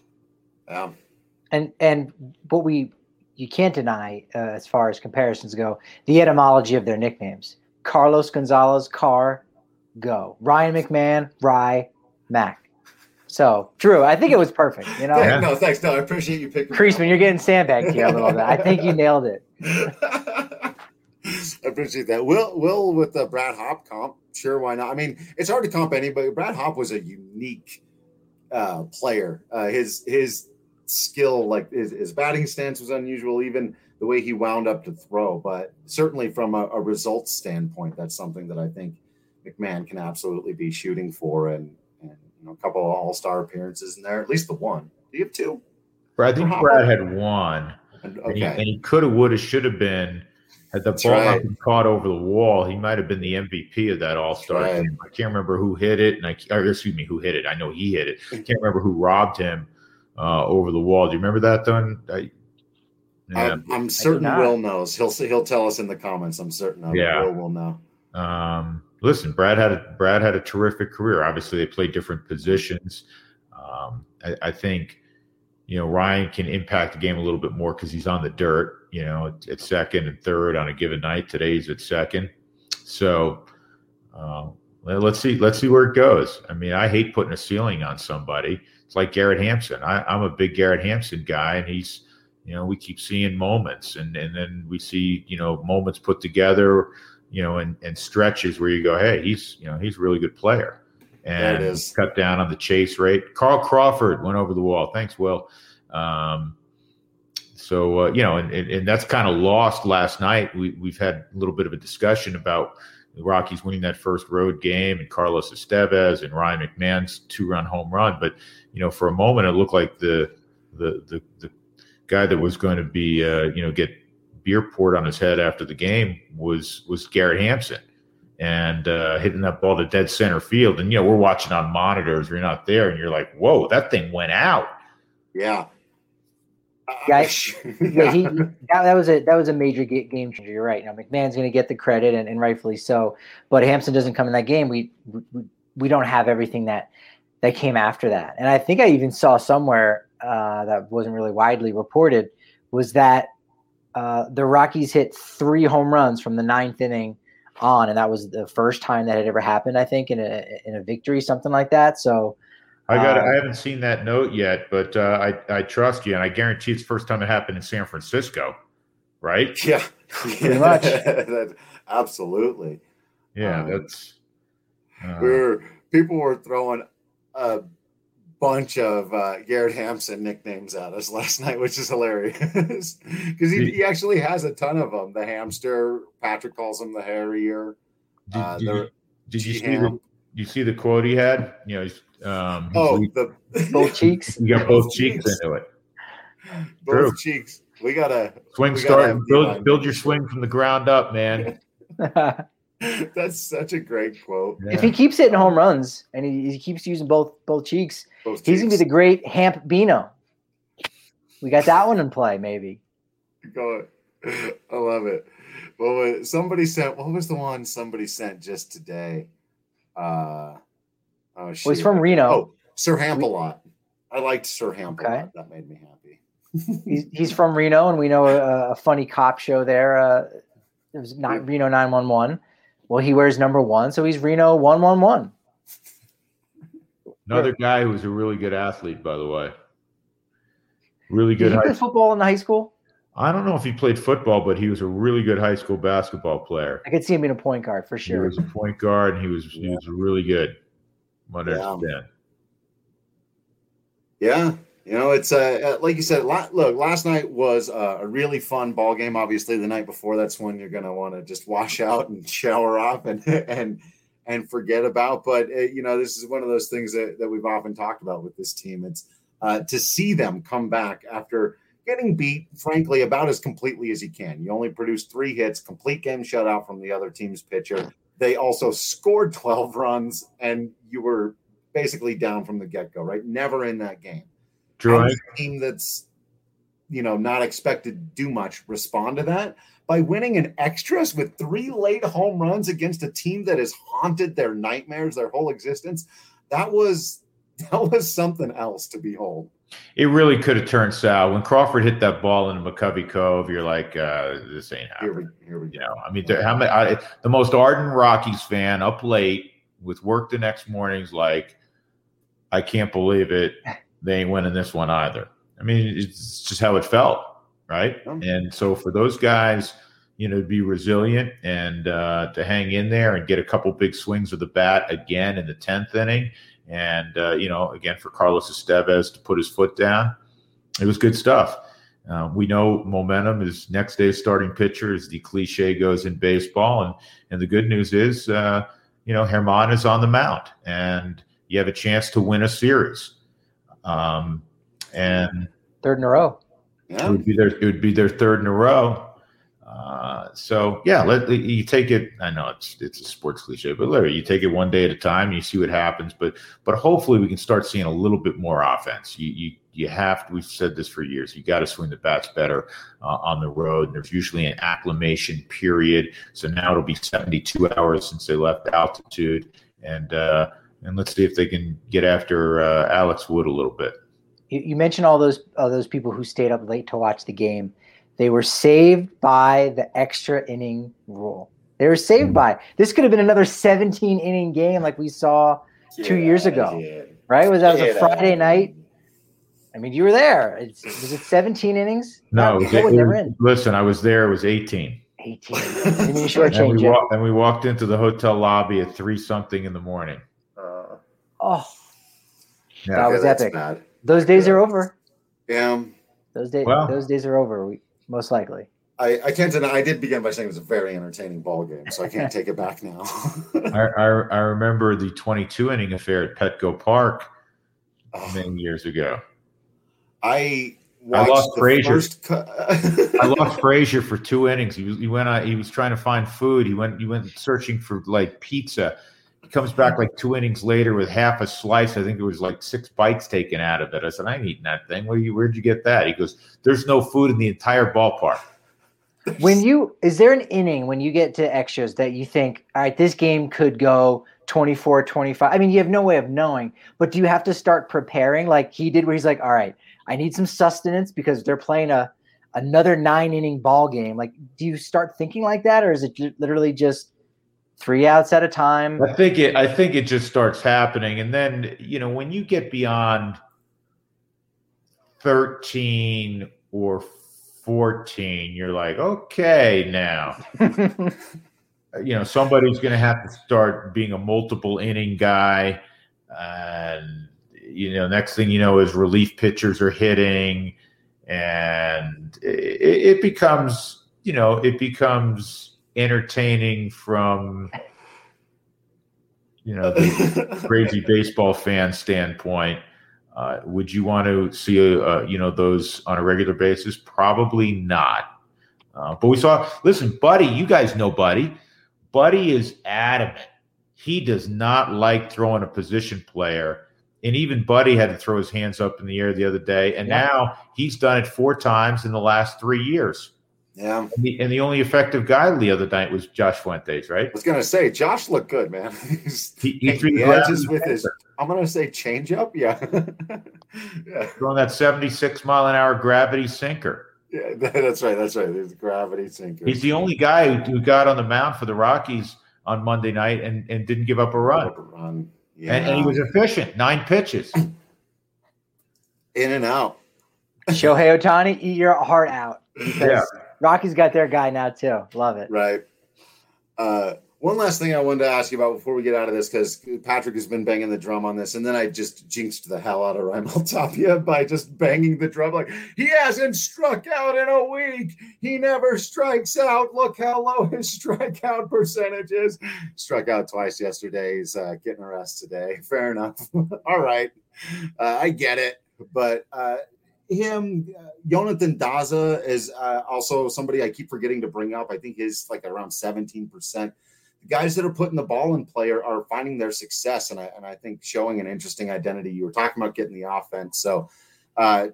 And what you can't deny, as far as comparisons go, the etymology of their nicknames. Carlos Gonzalez, Car, Go. Ryan McMahon, Rye, Mac. So, Drew, I think it was perfect. Yeah, no, thanks. No, I appreciate you picking. Creasman, you're getting sandbagged here a little bit. I think you nailed it. I appreciate that. Will with the Brad Hopp comp, sure, why not? It's hard to comp anybody. Brad Hopp was a unique player. His skill, like his batting stance, was unusual. Even the way he wound up to throw, but certainly from a results standpoint, that's something that I think McMahon can absolutely be shooting for, and a couple of all-star appearances in there, at least the one. Do you have 2? I think Brad had 1, okay. and he could have, would have, should have been Had the ball not been caught over the wall, he might have been the MVP of that All-Star game. I can't remember who hit it, who hit it. I know he hit it. I can't remember who robbed him over the wall. Do you remember that, Don? I'm certain Will knows. He'll tell us in the comments. I'm certain of it. Will know. Listen, Brad had a terrific career. Obviously, they played different positions. I think, Ryan can impact the game a little bit more because he's on the dirt, at second and third on a given night. Today he's at second. So let's see where it goes. I mean, I hate putting a ceiling on somebody. It's like Garrett Hampson. I'm a big Garrett Hampson guy, and he's, we keep seeing moments, and then we see, moments put together, and stretches where you go, hey, he's a really good player. And cut down on the chase rate. Carl Crawford went over the wall. Thanks, Will. And that's kind of lost last night. We've had a little bit of a discussion about the Rockies winning that first road game and Carlos Estevez and Ryan McMahon's 2-run home run. But, for a moment, it looked like the guy that was going to be, get beer poured on his head after the game was Garrett Hampson. And hitting that ball to dead center field. And, we're watching on monitors. You're not there. And you're like, whoa, that thing went out. Yeah. That was a major game changer. You're right. McMahon's going to get the credit, and rightfully so. But Hampson doesn't come in that game. We don't have everything that came after that. And I think I even saw somewhere that wasn't really widely reported was that the Rockies hit 3 home runs from the 9th inning on, and that was the first time that had ever happened, I think, in a victory, something like that. So I haven't seen that note yet, but I trust you, and I guarantee it's the first time it happened in San Francisco, right? Yeah, pretty much. Absolutely. Yeah, that's people were throwing a bunch of Garrett Hampson nicknames at us last night, which is hilarious because he actually has a ton of them. The Hamster, Patrick calls him the Harrier. Did you see the quote he had? Both cheeks. You got both cheeks into it. Both cheeks. We gotta build your swing from the ground up, man. That's such a great quote. Yeah. If he keeps hitting home runs and he keeps using both cheeks, he's gonna be the great Hamp Bino. We got that one in play, maybe. Go ahead. I love it. Well, somebody sent. What was the one somebody sent just today? He's from Reno. Oh, Sir Hamp-a-Lot. I liked Sir Hamp-a-Lot. Okay. That made me happy. he's from Reno, and we know a funny cop show there. It was not Reno 911. Well, he wears number 1, so he's Reno 111. Another guy who was a really good athlete, by the way. Really good. Did he play football in high school? I don't know if he played football, but he was a really good high school basketball player. I could see him being a point guard for sure. He was a point guard, and he was really good. Yeah. It's like you said. Look, last night was a really fun ball game. Obviously, the night before, that's when you're going to want to just wash out and shower off and forget about. But this is one of those things that we've often talked about with this team. It's to see them come back after getting beat, frankly, about as completely as you can. You only produced 3 hits, complete game shutout from the other team's pitcher. They also scored 12 runs, and you were basically down from the get-go, right? Never in that game. True. A team that's, not expected to do much respond to that by winning in extras with 3 late home runs against a team that has haunted their nightmares their whole existence. That was something else to behold. It really could have turned sour. When Crawford hit that ball into McCovey Cove, you're like, this ain't happening. Here we go. I mean, the most ardent Rockies fan up late with work the next morning's like, I can't believe it. They ain't winning this one either. I mean, it's just how it felt, right? Oh. And so for those guys, to be resilient and to hang in there and get a couple big swings of the bat again in the 10th inning, and again for Carlos Estevez to put his foot down, it was good stuff. We know momentum is next day's starting pitcher, as the cliche goes in baseball, and the good news is, Germán is on the mound, and you have a chance to win a series. And 3rd in a row. Yeah. It would be their 3rd in a row. So yeah, you take it. I know it's a sports cliche, but literally you take it one day at a time. You see what happens, but hopefully we can start seeing a little bit more offense. You have to. We've said this for years. You got to swing the bats better on the road. And there's usually an acclimation period. So now it'll be 72 hours since they left altitude, and let's see if they can get after Alex Wood a little bit. You mentioned all those people who stayed up late to watch the game. They were saved by the extra inning rule. They were saved by. This could have been another 17-inning game like we saw 2 years ago, right? That was a Friday night. I mean, you were there. Was it 17 innings? No, listen, I was there. It was 18. 18. I mean, you shortchanged it. And we walked into the hotel lobby at 3-something in the morning. That was epic. Bad. Those days are over. Yeah. Those days are over. Most likely. I can't deny. I did begin by saying it was a very entertaining ball game, so I can't take it back now. I remember the 22-inning affair at Petco Park many years ago. I lost Frazier. I lost Frazier for 2 innings. He was trying to find food. He went searching for like pizza. He comes back like 2 innings later with half a slice. I think there was like 6 bites taken out of it. I said, I ain't eating that thing. Where'd you get that? He goes, there's no food in the entire ballpark. Is there an inning when you get to extras that you think, all right, this game could go 24, 25? I mean, you have no way of knowing, but do you have to start preparing like he did where he's like, all right, I need some sustenance because they're playing another 9-inning ball game. Like, do you start thinking like that, or is it literally just 3 outs at a time? I think it just starts happening. And then, when you get beyond 13 or 14, you're like, okay, now, somebody's going to have to start being a multiple inning guy. And, next thing you know is relief pitchers are hitting, and it becomes entertaining from the crazy baseball fan standpoint. Would you want to see those on a regular basis? Probably not. But we saw. Listen, Buddy, you guys know Buddy. Buddy is adamant. He does not like throwing a position player. And even Buddy had to throw his hands up in the air the other day. And now he's done it 4 times in the last 3 years. Yeah. And the only effective guy the other night was Josh Fuentes, right? I was going to say, Josh looked good, man. He threw the edges with his, I'm going to say, changeup. Yeah. Throwing that 76-mile-an-hour gravity sinker. Yeah, that's right. There's gravity sinker. He's the only guy who got on the mound for the Rockies on Monday night and didn't give up a run. Yeah. And he was efficient. 9 pitches. In and out. Shohei Ohtani, eat your heart out. Rocky's got their guy now too. Love it. Right. One last thing I wanted to ask you about before we get out of this, because Patrick has been banging the drum on this, and then I just jinxed the hell out of Raimel Tapia by just banging the drum like, he hasn't struck out in a week. He never strikes out. Look how low his strikeout percentage is. Struck out twice yesterday. He's getting a rest today. Fair enough. All right. I get it. But Jonathan Daza is also somebody I keep forgetting to bring up. I think he's like around 17%. The guys that are putting the ball in play are finding their success, and I think showing an interesting identity. You were talking about getting the offense. So, I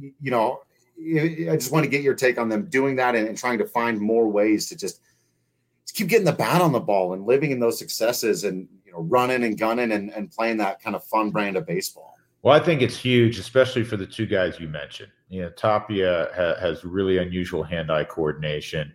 just want to get your take on them doing that and trying to find more ways to just keep getting the bat on the ball and living in those successes and, running and gunning and playing that kind of fun brand of baseball. Well, I think it's huge, especially for the 2 guys you mentioned. Tapia has really unusual hand-eye coordination.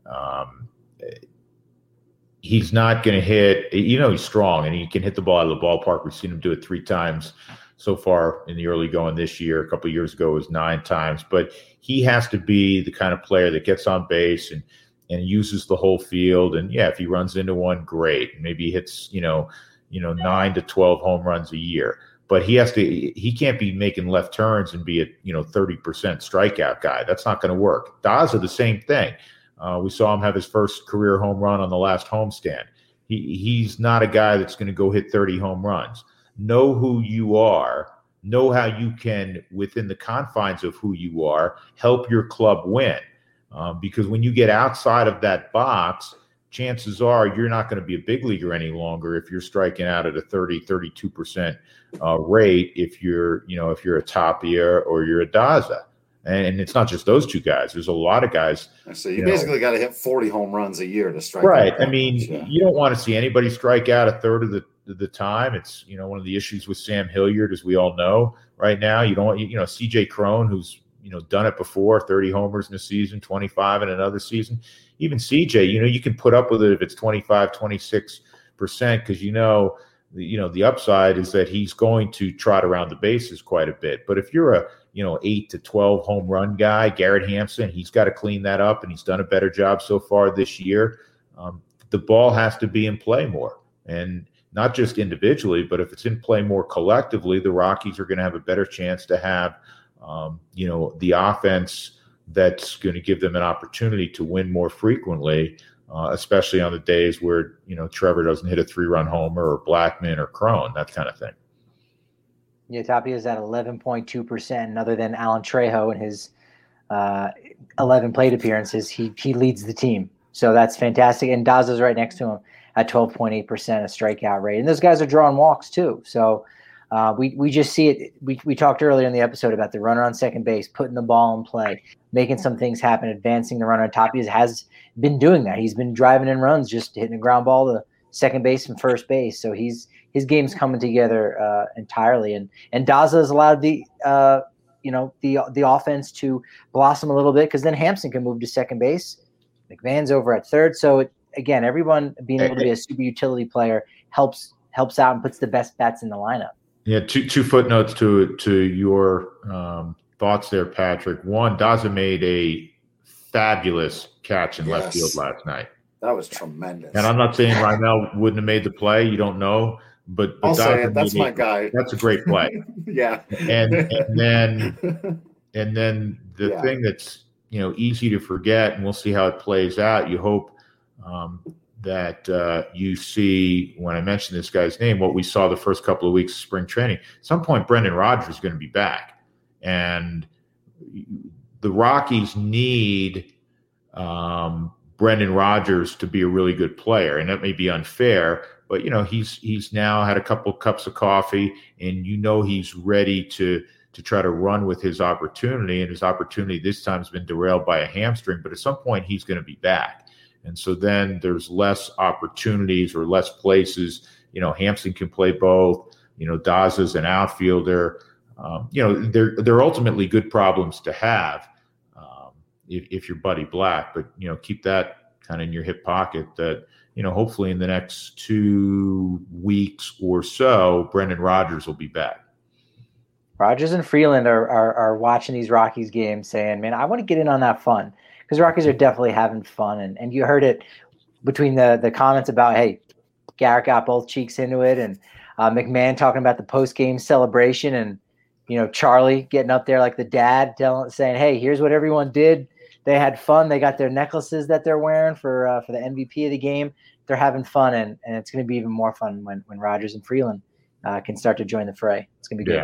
He's not going to hit. He's strong, and he can hit the ball out of the ballpark. We've seen him do it 3 times so far in the early going this year. A couple of years ago, it was 9 times. But he has to be the kind of player that gets on base and uses the whole field. And, if he runs into one, great. Maybe he hits, 9 to 12 home runs a year. But he can't be making left turns and be a 30% strikeout guy. That's not going to work. Daza, the same thing. We saw him have his first career home run on the last homestand. He's not a guy that's going to go hit 30 home runs. Know who you are. Know how you can, within the confines of who you are, help your club win. because when you get outside of that box, chances are you're not going to be a big leaguer any longer if you're striking out at a 32% rate if you're a Tapia or you're a Daza. And it's not just those two guys. There's a lot of guys. So you basically got to hit 40 home runs a year to strike right. out. I mean, you don't want to see anybody strike out a third of the time. It's, one of the issues with Sam Hilliard, as we all know right now. You don't want, CJ Cron, who's, done it before, 30 homers in a season, 25 in another season. Even CJ, you can put up with it if it's 25, 26%, because the upside is that he's going to trot around the bases quite a bit. But if you're a 8 to 12 home run guy, Garrett Hampson, he's got to clean that up, and he's done a better job so far this year. The ball has to be in play more, and not just individually, but if it's in play more collectively, the Rockies are going to have a better chance to have, the offense that's going to give them an opportunity to win more frequently, especially on the days where, Trevor doesn't hit a 3-run homer or Blackmon or Cron, that kind of thing. Yeah, Tapia is at 11.2%, and other than Alan Trejo and his 11 plate appearances, he leads the team. So that's fantastic. And Daza's right next to him at 12.8% a strikeout rate. And those guys are drawing walks too. So we just see it. We talked earlier in the episode about the runner on second base, putting the ball in play, making some things happen, advancing the runner. Tapia has been doing that. He's been driving in runs, just hitting a ground ball to second base and first base. So his game's coming together entirely. And Daza has allowed the offense to blossom a little bit, because then Hampson can move to second base. McMahon's over at third. So again, everyone being able to be a super utility player helps out and puts the best bats in the lineup. Yeah, two footnotes to your thoughts there, Patrick. One, Daza made a fabulous catch in left field last night. That was tremendous. And I'm not saying Rymel wouldn't have made the play. You don't know, but I'll say it. That's my guy. That's a great play. Yeah. And then the thing that's easy to forget, and we'll see how it plays out. You hope that you see, when I mention this guy's name, what we saw the first couple of weeks of spring training. At some point, Brendan Rodgers is going to be back, and the Rockies need Brendan Rodgers to be a really good player. And that may be unfair, but he's now had a couple of cups of coffee, and he's ready to try to run with his opportunity. And his opportunity this time has been derailed by a hamstring, but at some point he's going to be back. And so then there's less opportunities or less places. Hampson can play both. Daza's an outfielder. They're ultimately good problems to have if you're Buddy Black. But keep that kind of in your hip pocket. That hopefully in the next 2 weeks or so, Brendan Rodgers will be back. Rodgers and Freeland are watching these Rockies games, saying, "Man, I want to get in on that fun." Because Rockies are definitely having fun, and you heard it between the comments about, hey, Garrett got both cheeks into it, and McMahon talking about the post-game celebration, and Charlie getting up there like the dad, saying, hey, here's what everyone did. They had fun. They got their necklaces that they're wearing for the MVP of the game. They're having fun, and it's going to be even more fun when Rodgers and Freeland can start to join the fray. It's going to be good.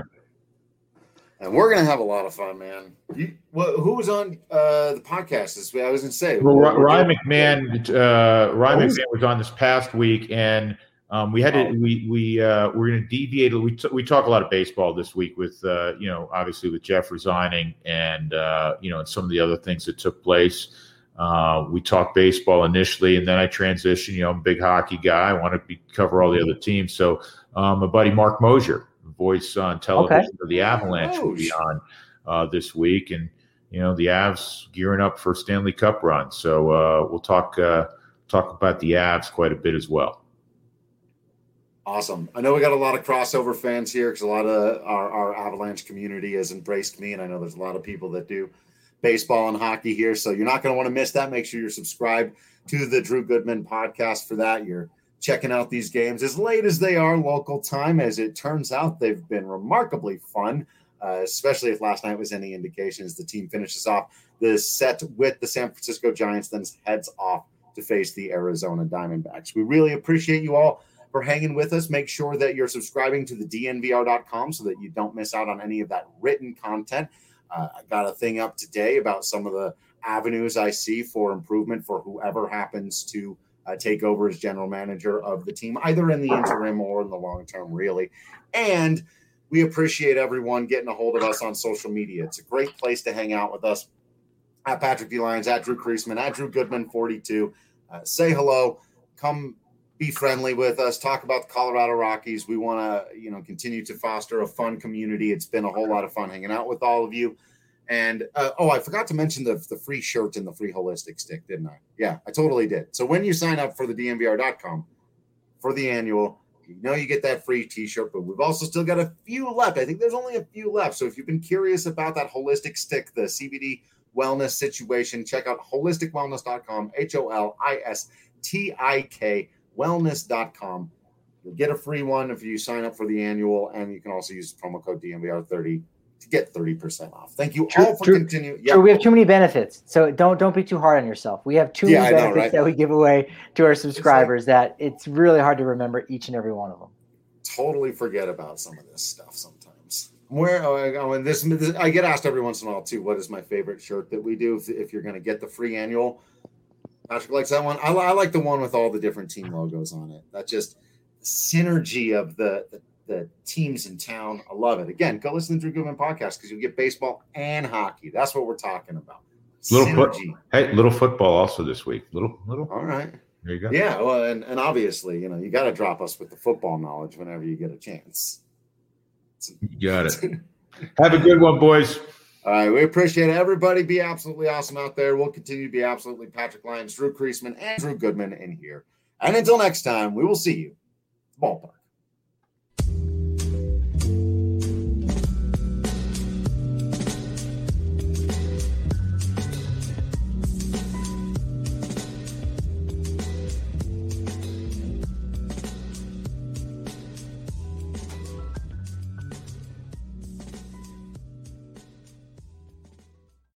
And we're going to have a lot of fun, man. Who was on the podcast? I was going to say. Well, Ryan McMahon was on this past week, and we had to. We're going to deviate. We talk a lot of baseball this week with obviously with Jeff resigning, and and some of the other things that took place. We talked baseball initially, and then I transitioned. I'm a big hockey guy. I want to cover all the other teams. So my buddy Mark Mosier, voice on television for the Avalanche, will be on this week, and the Avs gearing up for Stanley Cup run. So we'll talk about the Avs quite a bit as well. Awesome. I know we got a lot of crossover fans here because a lot of our Avalanche community has embraced me, and I know there's a lot of people that do baseball and hockey here. So you're not going to want to miss that. Make sure you're subscribed to the Drew Goodman podcast for that. You're checking out these games as late as they are local time. As it turns out, they've been remarkably fun, especially if last night was any indication, as the team finishes off the set with the San Francisco Giants, then heads off to face the Arizona Diamondbacks. We really appreciate you all for hanging with us. Make sure that you're subscribing to the DNVR.com so that you don't miss out on any of that written content. I got a thing up today about some of the avenues I see for improvement for whoever happens to take over as general manager of the team, either in the interim or in the long term, really. And we appreciate everyone getting a hold of us on social media. It's a great place to hang out with us. At Patrick D. Lyons, at Drew Creasman, at Drew Goodman 42. Say hello. Come be friendly with us. Talk about the Colorado Rockies. We want to, continue to foster a fun community. It's been a whole lot of fun hanging out with all of you. And, I forgot to mention the free shirt and the free holistic stick, didn't I? Yeah, I totally did. So when you sign up for the DNVR.com for the annual, you get that free t-shirt, but we've also still got a few left. I think there's only a few left. So if you've been curious about that holistic stick, the CBD wellness situation, check out holisticwellness.com, HOLISTIK wellness.com. You'll get a free one if you sign up for the annual, and you can also use the promo code DNVR30 to get 30% off. Thank you all for continuing. Yeah. We have too many benefits, so don't be too hard on yourself. We have too many benefits that we give away to our subscribers that it's really hard to remember each and every one of them. Totally forget about some of this stuff sometimes. I get asked every once in a while too, what is my favorite shirt that we do if you're going to get the free annual? Patrick likes that one. I like the one with all the different team logos on it. That just synergy of the teams in town. I love it. Again, go listen to the Drew Goodman podcast because you'll get baseball and hockey. That's what we're talking about. Little football also this week. Little. All right. There you go. Yeah. Well, and obviously, you got to drop us with the football knowledge whenever you get a chance. You got it. Have a good one, boys. All right. We appreciate it. Everybody be absolutely awesome out there. We'll continue to be absolutely Patrick Lyons, Drew Creasman, and Drew Goodman in here. And until next time, we will see you. Ballpark.